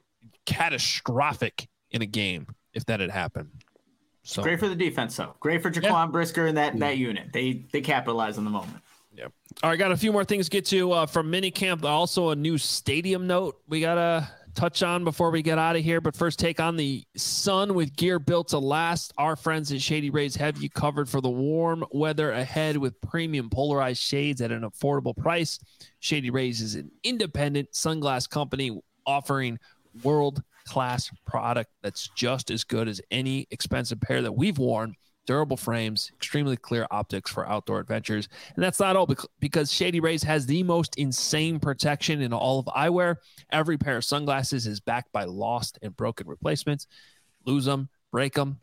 catastrophic in a game if that had happened. So great for the defense, though. Great for Jaquan yeah. Brisker and that, that unit. They, they capitalized on the moment. Yeah. All right, got a few more things to get to uh, from minicamp. Also, a new stadium note we got to touch on before we get out of here. But first, take on the sun with gear built to last. Our friends at Shady Rays have you covered for the warm weather ahead with premium polarized shades at an affordable price. Shady Rays is an independent sunglass company offering world-class product that's just as good as any expensive pair that we've worn durable frames, extremely clear optics for outdoor adventures. And that's not all, because Shady Rays has the most insane protection in all of eyewear. Every pair of sunglasses is backed by lost and broken replacements. Lose them, break them,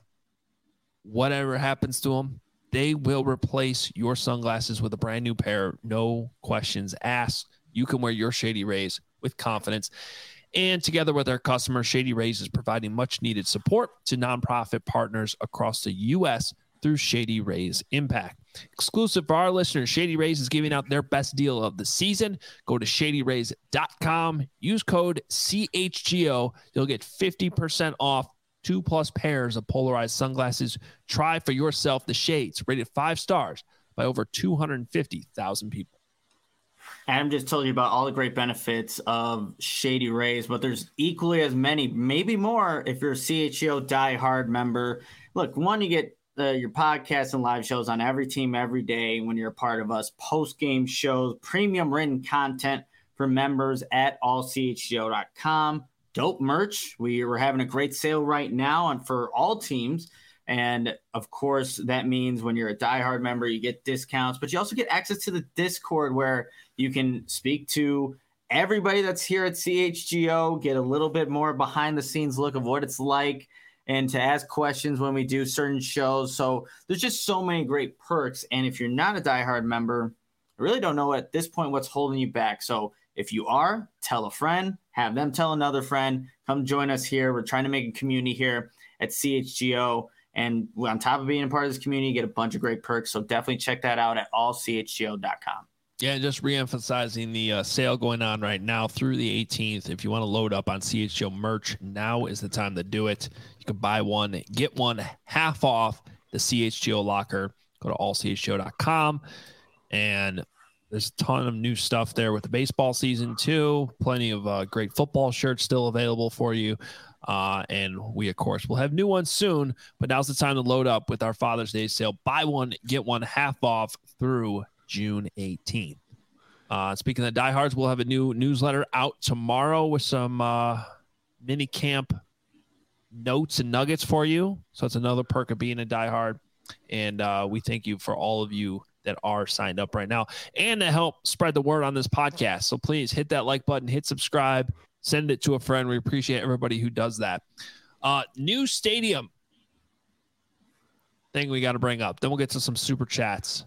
whatever happens to them, they will replace your sunglasses with a brand new pair. No questions asked. You can wear your Shady Rays with confidence. And together with our customers, Shady Rays is providing much needed support to nonprofit partners across the U S through Shady Rays Impact. Exclusive for our listeners, Shady Rays is giving out their best deal of the season. Go to shady rays dot com, use code C H G O. You'll get fifty percent off two plus pairs of polarized sunglasses. Try for yourself the shades, rated five stars by over two hundred fifty thousand people. Adam just told you about all the great benefits of Shady Rays, but there's equally as many, maybe more, if you're a C H G O Die Hard member. Look, one, you get uh, your podcasts and live shows on every team every day when you're a part of us, post-game shows, premium written content for members at all c h g o dot com. Dope merch. We are having a great sale right now on for all teams. And of course, that means when you're a Die Hard member, you get discounts, but you also get access to the Discord where you can speak to everybody that's here at C H G O, get a little bit more behind the scenes look of what it's like, and to ask questions when we do certain shows. So there's just so many great perks. And if you're not a Die Hard member, I really don't know at this point what's holding you back. So if you are, tell a friend, have them tell another friend, come join us here. We're trying to make a community here at C H G O. And on top of being a part of this community, you get a bunch of great perks. So definitely check that out at all c h g o dot com. Yeah, just reemphasizing the uh, sale going on right now through the eighteenth. If you want to load up on C H G O merch, now is the time to do it. You can buy one, get one half off the C H G O locker. Go to all c h g o dot com. And there's a ton of new stuff there with the baseball season too. Plenty of uh, great football shirts still available for you. Uh, and we, of course, will have new ones soon. But now's the time to load up with our Father's Day sale. Buy one, get one half off through June eighteenth. Uh, speaking of diehards, we'll have a new newsletter out tomorrow with some uh, mini camp notes and nuggets for you. So it's another perk of being a diehard. And uh, we thank you for all of you that are signed up right now and to help spread the word on this podcast. So please hit that like button, hit subscribe, send it to a friend. We appreciate everybody who does that. Uh, new stadium thing we got to bring up. Then we'll get to some super chats.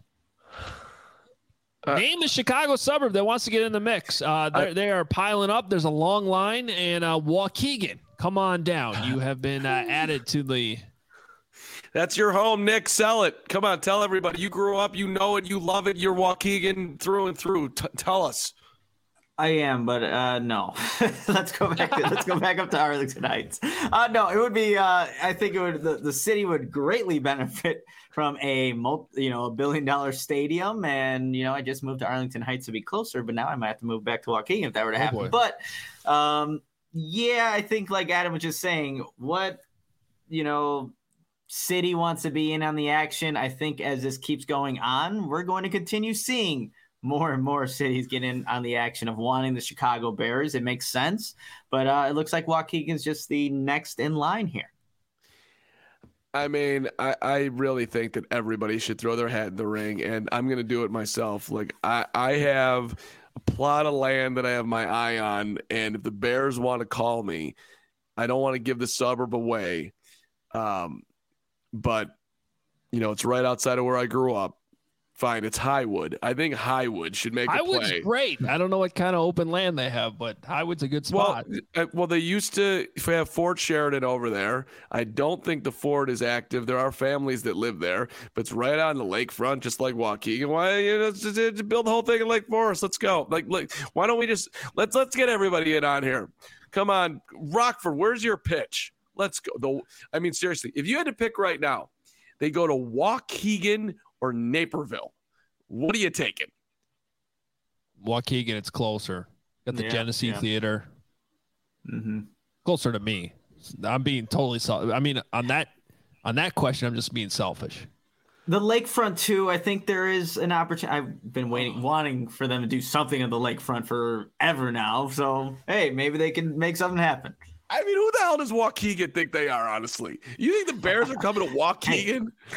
Uh, Name the Chicago suburb that wants to get in the mix. Uh, I, they are piling up. There's a long line. And uh, Waukegan, come on down. You have been uh, added to the... That's your home, Nick. Sell it. Come on, tell everybody. You grew up, you know it, you love it. You're Waukegan through and through. T- tell us. I am, but uh, no. let's go back. To, let's go back up to Arlington Heights. Uh, no, it would be. Uh, I think it would. The, the city would greatly benefit from a multi, you know, a billion dollar stadium. And you know, I just moved to Arlington Heights to be closer, but now I might have to move back to Waukegan if that were to happen. Oh but um, yeah, I think like Adam was just saying, what you know. City wants to be in on the action. I think as this keeps going on, we're going to continue seeing more and more cities get in on the action of wanting the Chicago Bears. It makes sense, but uh, it looks like Waukegan's just the next in line here. I mean, I, I really think that everybody should throw their hat in the ring, and I'm going to do it myself. Like I, I have a plot of land that I have my eye on, and if the Bears want to call me, I don't want to give the suburb away. Um, But, you know, it's right outside of where I grew up. Fine, it's Highwood. I think Highwood should make Highwood's a play. Highwood's great. I don't know what kind of open land they have, but Highwood's a good spot. Well, well, they used to have Fort Sheridan over there. I don't think the fort is active. There are families that live there, but it's right on the lakefront, just like Waukegan. Why, you know, just, just build the whole thing in Lake Forest. Let's go. Like, like, why don't we just let's let's get everybody in on here? Come on, Rockford. Where's your pitch? Let's go. The, I mean, seriously, if you had to pick right now, they go to Waukegan or Naperville. What are you taking? Waukegan, it's closer. Got the yeah, Genesee yeah. Theater. Mm-hmm. Closer to me. I'm being totally selfish. I mean, on that on that question, I'm just being selfish. The lakefront too. I think there is an opportunity. I've been waiting, wanting for them to do something on the lakefront forever now. So hey, maybe they can make something happen. I mean, who the hell does Waukegan think they are, honestly? You think the Bears are coming to Waukegan?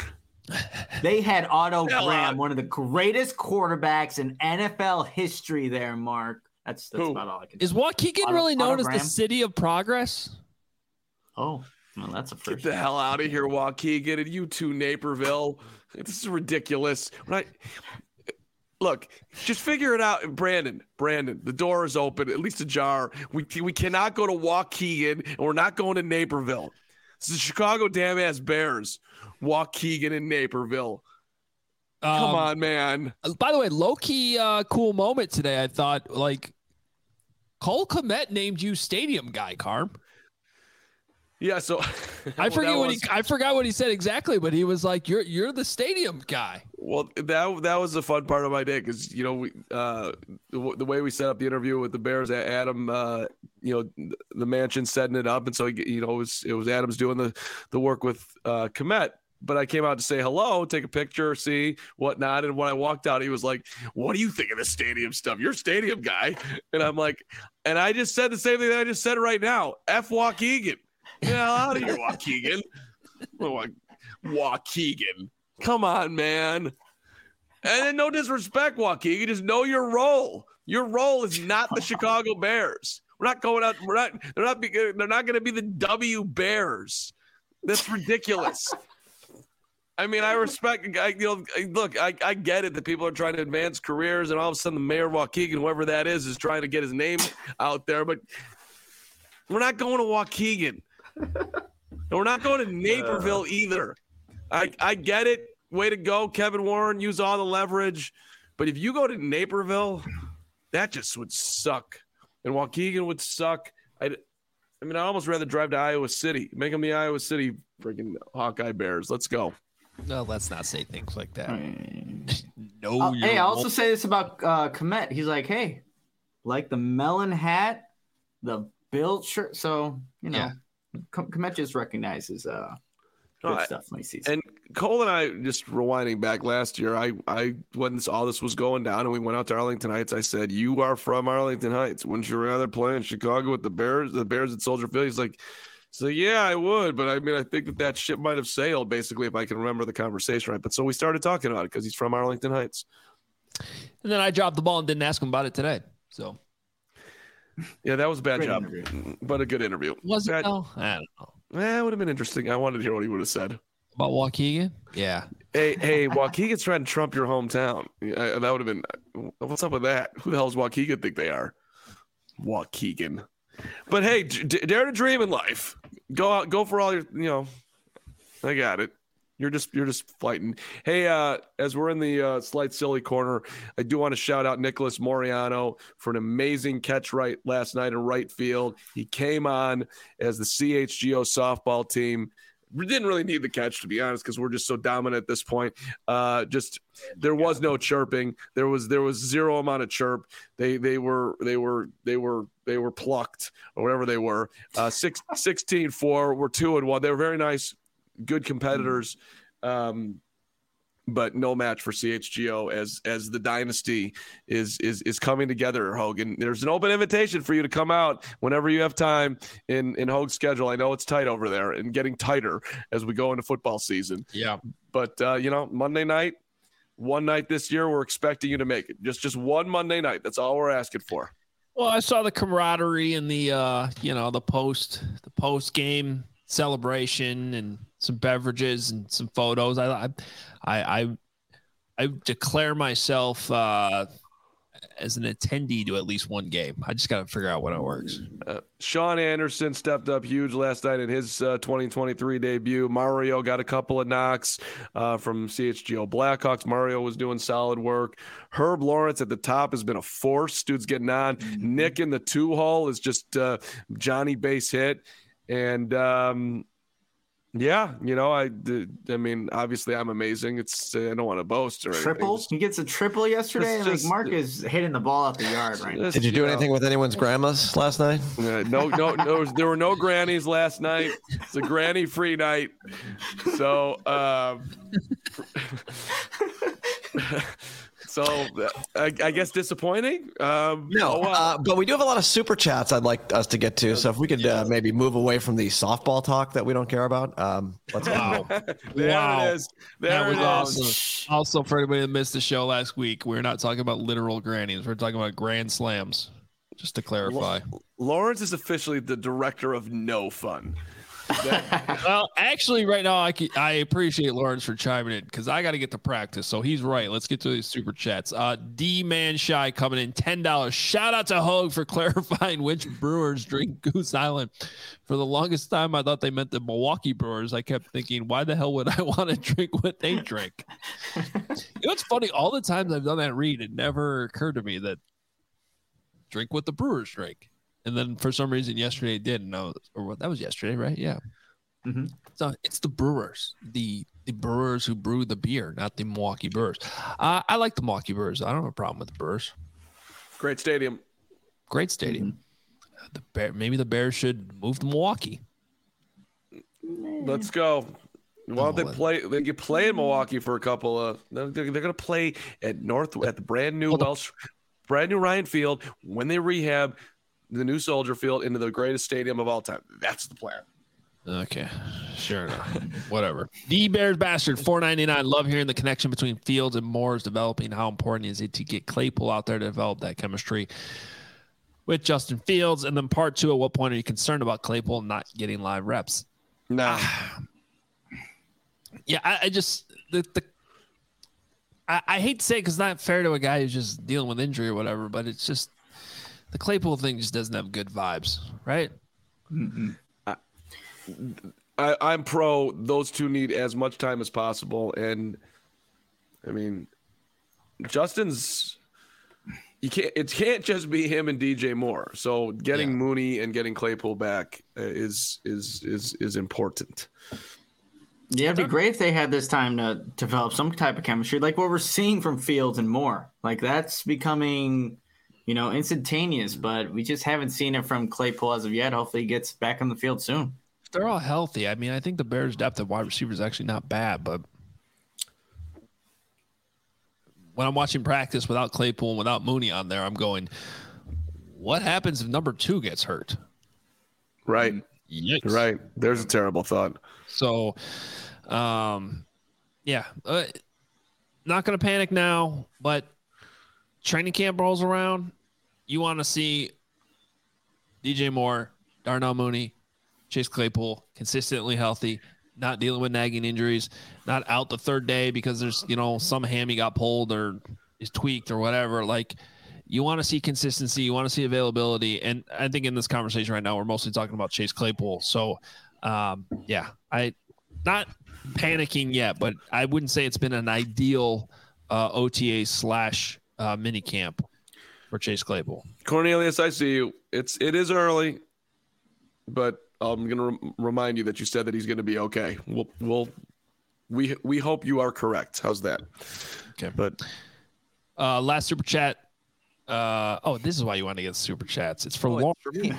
They had Otto Graham, one of the greatest quarterbacks in N F L history there, Mark. That's, that's about all I can Is Waukegan really known as the city of progress? Oh, well, that's a first. Get the hell out of here, Waukegan, and you too, Naperville. This is ridiculous. When I, look, just figure it out. Brandon, Brandon, the door is open, at least ajar. We, we cannot go to Waukegan, and we're not going to Naperville. This is the Chicago damn-ass Bears. Waukegan and Naperville. Come um, on, man. By the way, low-key uh, cool moment today, I thought. Like, Cole Kmet named you stadium guy, Carm. Yeah, so I forget well, what was, he I forgot what he said exactly, but he was like, "You're you're the stadium guy." Well, that that was the fun part of my day because you know we uh, the, the way we set up the interview with the Bears, Adam, uh, you know, the mansion setting it up, and so you know it was it was Adam's doing the the work with uh, Kmet. But I came out to say hello, take a picture, see whatnot, and when I walked out, he was like, "What do you think of the stadium stuff? You're a stadium guy," and I'm like, and I just said the same thing that I just said right now. F Waukegan. Yeah, out of here, Waukegan. Waukegan. Come on, man. And then no disrespect, Waukegan. Just know your role. Your role is not the Chicago Bears. We're not going out. We're not. They're not. They're not going to be the W Bears. That's ridiculous. I mean, I respect. I, you know, look, I, I get it that people are trying to advance careers, and all of a sudden, the mayor of Waukegan, whoever that is, is trying to get his name out there. But we're not going to Waukegan. We're not going to Naperville uh, either. I, I get it. Way to go, Kevin Warren. Use all the leverage. But if you go to Naperville, that just would suck. And Waukegan would suck. I'd, I mean, I'd almost rather drive to Iowa City. Make them the Iowa City freaking Hawkeye Bears. Let's go. No, let's not say things like that. no. Uh, hey, I also say this about uh, Kmet. He's like, hey, like the melon hat, the Bill shirt. So, you know. Yeah. Kmet just recognizes uh, good no, stuff when he sees it. And Cole and I, just rewinding back last year, I, I when this, all this was going down and we went out to Arlington Heights, I said, "You are from Arlington Heights. Wouldn't you rather play in Chicago with the Bears, the Bears at Soldier Field?" He's like, "So yeah, I would, but I mean, I think that that ship might have sailed, basically, if I can remember the conversation right." But so we started talking about it because he's from Arlington Heights. And then I dropped the ball and didn't ask him about it today. So. Yeah, that was a bad Great job, interview. but a good interview. Was it? Bad, though? I don't know. Eh, it would have been interesting. I wanted to hear what he would have said. About Waukegan? Yeah. Hey, hey, Waukegan's trying to trump your hometown. Yeah, that would have been, what's up with that? Who the hell does Waukegan think they are? Waukegan. But hey, d- dare to dream in life. Go out, go for all your, you know, I got it. You're just you're just fighting. Hey, uh, as we're in the uh, slight silly corner, I do want to shout out Nicholas Moriano for an amazing catch right last night in right field. He came on as the C H G O softball team. We didn't really need the catch, to be honest, because we're just so dominant at this point. Uh, just there was no chirping. There was there was zero amount of chirp. They they were they were they were they were plucked or whatever they were. Uh, six, sixteen four. We're two and one. They were very nice. Good competitors, um, but no match for C H G O as as the dynasty is is is coming together. Hogan, there's an open invitation for you to come out whenever you have time in in Hogan's schedule. I know it's tight over there and getting tighter as we go into football season. Yeah, but uh, you know, Monday night, one night this year, we're expecting you to make it. Just just one Monday night. That's all we're asking for. Well, I saw the camaraderie in the uh, you know the post the post game celebration and some beverages and some photos. I I I I declare myself uh, as an attendee to at least one game. I just got to figure out when it works. Uh, Sean Anderson stepped up huge last night in his uh, twenty twenty-three debut. Mario got a couple of knocks uh, from C H G O Blackhawks. Mario was doing solid work. Herb Lawrence at the top has been a force. Dude's getting on. Mm-hmm. Nick in the two hole is just uh, Johnny base hit. And, um, yeah, you know, I, I mean, obviously I'm amazing. It's, uh, I don't want to boast or anything. Triple? Just, he gets a triple yesterday. just, like Mark is hitting the ball out the yard right now. Did you do you anything know, with anyone's grandmas last night? Uh, no, no, no. There were no grannies last night. It's a granny free night. So, um, So I, I guess disappointing. Um, no, oh, well. uh, but we do have a lot of super chats I'd like us to get to. So if we could uh, maybe move away from the softball talk that we don't care about, um, let's wow. go. There wow. it is. There that was it awesome. is. Also, for anybody that missed the show last week, we're not talking about literal grannies. We're talking about grand slams. Just to clarify, Lawrence is officially the director of no fun. Well, actually, right now I can, I appreciate Lawrence for chiming in because I got to get to practice. So he's right. Let's get to these super chats. Uh, D Man Shy coming in ten dollars. Shout out to Hogue for clarifying which Brewers drink Goose Island. For the longest time, I thought they meant the Milwaukee Brewers. I kept thinking, why the hell would I want to drink what they drink? You know, it's funny. All the times I've done that read, it never occurred to me that drink what the Brewers drink. And then for some reason yesterday it did. No, or what that was yesterday, right? Yeah. Mm-hmm. So it's the Brewers, the the Brewers who brew the beer, not the Milwaukee Brewers. Uh, I like the Milwaukee Brewers. I don't have a problem with the Brewers. Great stadium. Great stadium. Mm-hmm. The Bear, maybe the Bears should move to Milwaukee. Let's go. Well, they play. They can play in Milwaukee for a couple of. They're, they're going to play at North at the brand new Welsh, brand new Ryan Field when they rehab the new Soldier Field into the greatest stadium of all time. That's the plan. Okay, sure enough. Whatever. The Bears Bastard, four ninety-nine. Love hearing the connection between Fields and Moore is developing. How important is it to get Claypool out there to develop that chemistry with Justin Fields? And then part two, at what point are you concerned about Claypool not getting live reps? No. Ah. Yeah, I, I just the the I, I hate to say it because it's not fair to a guy who's just dealing with injury or whatever, but it's just the Claypool thing just doesn't have good vibes, right? Mm-hmm. I, I, I'm pro. Those two need as much time as possible, and I mean, Justin's. You can't. It can't just be him and D J Moore. So getting yeah. Mooney and getting Claypool back is is is is important. Yeah, it'd be great if they had this time to develop some type of chemistry, like what we're seeing from Fields and Moore. Like that's becoming, you know, instantaneous. But we just haven't seen it from Claypool as of yet. Hopefully, he gets back on the field soon. If they're all healthy, I mean, I think the Bears' depth of wide receiver is actually not bad, but when I'm watching practice without Claypool and without Mooney on there, I'm going, what happens if number two gets hurt? Right. Yikes. Right. There's a terrible thought. So, um, yeah, uh, not going to panic now, but training camp rolls around. You want to see D J Moore, Darnell Mooney, Chase Claypool consistently healthy, not dealing with nagging injuries, not out the third day because there's, you know, some hammy got pulled or is tweaked or whatever. Like, you want to see consistency. You want to see availability. And I think in this conversation right now, we're mostly talking about Chase Claypool. So, um, yeah, I not panicking yet, but I wouldn't say it's been an ideal uh, O T A slash uh, mini camp for Chase Claypool. Cornelius, I see you. It's it is early, but I'm going to re- remind you that you said that he's going to be okay. We'll, we'll, we, we hope you are correct. How's that? Okay. But uh, last super chat. Uh, oh, this is why you want to get super chats. It's for oh, Lauren. For me.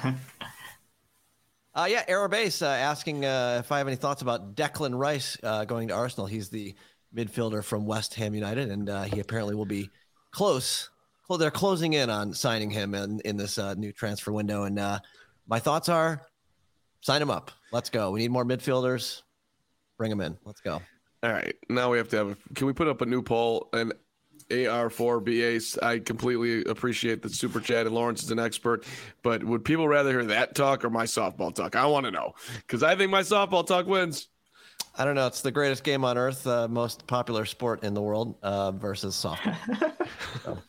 uh, yeah, Aerobase uh, asking uh, if I have any thoughts about Declan Rice uh, going to Arsenal. He's the midfielder from West Ham United, and uh, he apparently will be close. Well, they're closing in on signing him in, in this uh, new transfer window. And uh, my thoughts are, sign him up. Let's go. We need more midfielders. Bring him in. Let's go. All right. Now we have to have a, can we put up a new poll? And A R four B A, I completely appreciate the super chat, and Lawrence is an expert. But would people rather hear that talk or my softball talk? I want to know because I think my softball talk wins. I don't know. It's the greatest game on earth, uh, most popular sport in the world uh, versus softball. So.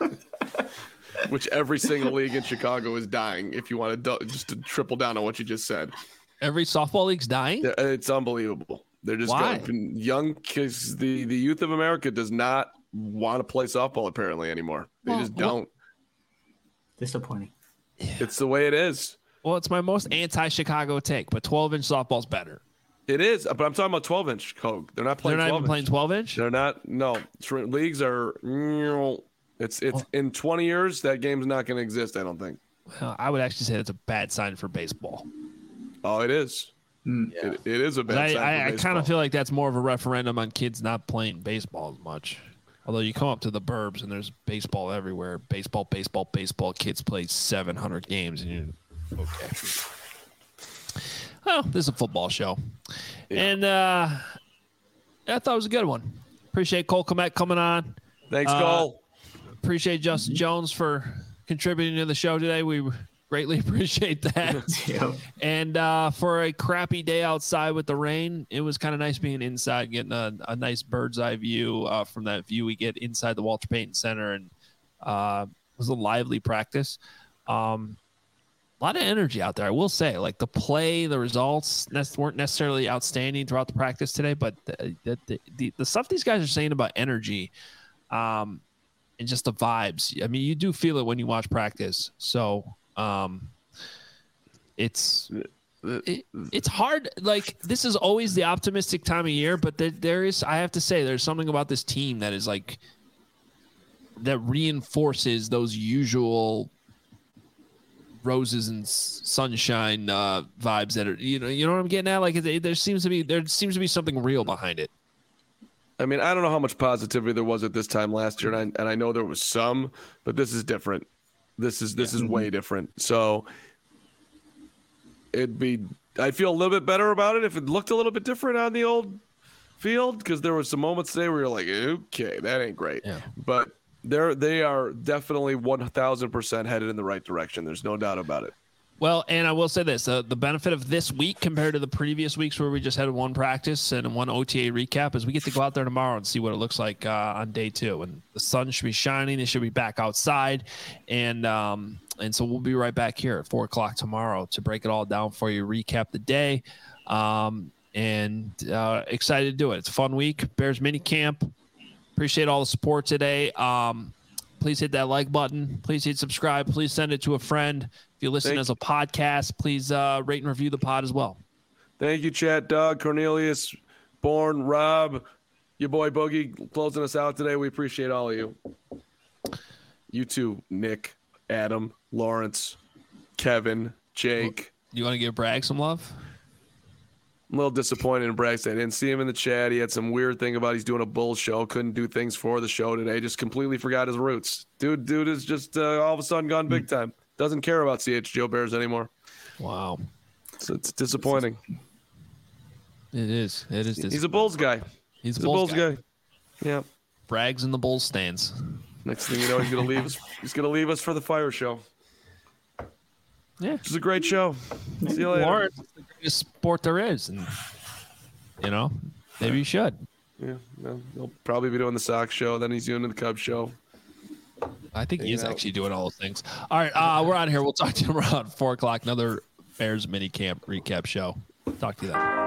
Which every single league in Chicago is dying. If you want to do, just to triple down on what you just said, every softball league's dying. It's unbelievable. They're just Why? going young because the the youth of America does not want to play softball apparently anymore. They well, just don't. Disappointing. It's the way it is. Well, it's my most anti-Chicago take, but twelve-inch softball's better. It is, but I'm talking about twelve-inch Coke. They're not playing. They're not twelve even playing twelve-inch. They're not. No, leagues are. It's it's well, in twenty years that game's not going to exist. I don't think. Well, I would actually say that's a bad sign for baseball. Oh, it is. Mm. It, it is a bad I, sign. I, for I kind of feel like that's more of a referendum on kids not playing baseball as much. Although you come up to the burbs and there's baseball everywhere. Baseball, baseball, baseball. Kids play seven hundred games and you're okay. Well, this is a football show. Yeah. And uh, I thought it was a good one. Appreciate Cole Kmet coming on. Thanks, uh, Cole. Appreciate Justin Jones for contributing to the show today. We greatly appreciate that. Yep. And uh, for a crappy day outside with the rain, it was kind of nice being inside, getting a, a nice bird's eye view uh, from that view we get inside the Walter Payton Center. And uh, it was a lively practice. Um, a lot of energy out there, I will say. Like the play, the results weren't necessarily outstanding throughout the practice today, but the, the, the, the stuff these guys are saying about energy um, and just the vibes, I mean, you do feel it when you watch practice. So, Um, it's it, it's hard. Like this is always the optimistic time of year, but there, there is. I have to say, there's something about this team that is like that reinforces those usual roses and sunshine uh, vibes that are you know you know what I'm getting at. Like it, there seems to be there seems to be something real behind it. I mean, I don't know how much positivity there was at this time last year, and I, and I know there was some, but this is different. This is this yeah. is way different. So it'd be I feel a little bit better about it if it looked a little bit different on the old field, because there were some moments today where you're like, okay, that ain't great. Yeah. But they're they are definitely one thousand percent headed in the right direction. There's no doubt about it. Well, and I will say this, uh, the benefit of this week compared to the previous weeks where we just had one practice and one O T A recap is we get to go out there tomorrow and see what it looks like uh, on day two. And the sun should be shining. It should be back outside. And um, and so we'll be right back here at four o'clock tomorrow to break it all down for you, recap the day. Um, and uh, excited to do it. It's a fun week. Bears mini camp. Appreciate all the support today. Um, please hit that like button. Please hit subscribe. Please send it to a friend. If you listen Thank as a podcast, please uh, rate and review the pod as well. Thank you, Chat, Doug, Cornelius, Bourne, Rob, your boy Boogie, closing us out today. We appreciate all of you. You too, Nick, Adam, Lawrence, Kevin, Jake. You want to give Bragg some love? I'm a little disappointed in Bragg. I didn't see him in the chat. He had some weird thing about he's doing a bull show. Couldn't do things for the show today. Just completely forgot his roots. Dude, dude is just uh, all of a sudden gone big time. Doesn't care about C H G O Bears anymore. Wow. So it's disappointing. It is. It is. He's a Bulls guy. He's, he's a Bulls, Bulls guy. guy. Yeah. Bragg's in the Bulls stands. Next thing you know, he's gonna leave us. He's gonna leave us for the Fire Show. Yeah, it's a great show. See you later. Lawrence, it's the greatest sport there is, and you know, maybe you should. Yeah, no, he'll probably be doing the Sox show. Then he's doing the Cubs show. I think he is actually doing all those things. All right, uh, we're out of here. We'll talk to you around four o'clock. Another Bears mini camp recap show. Talk to you then.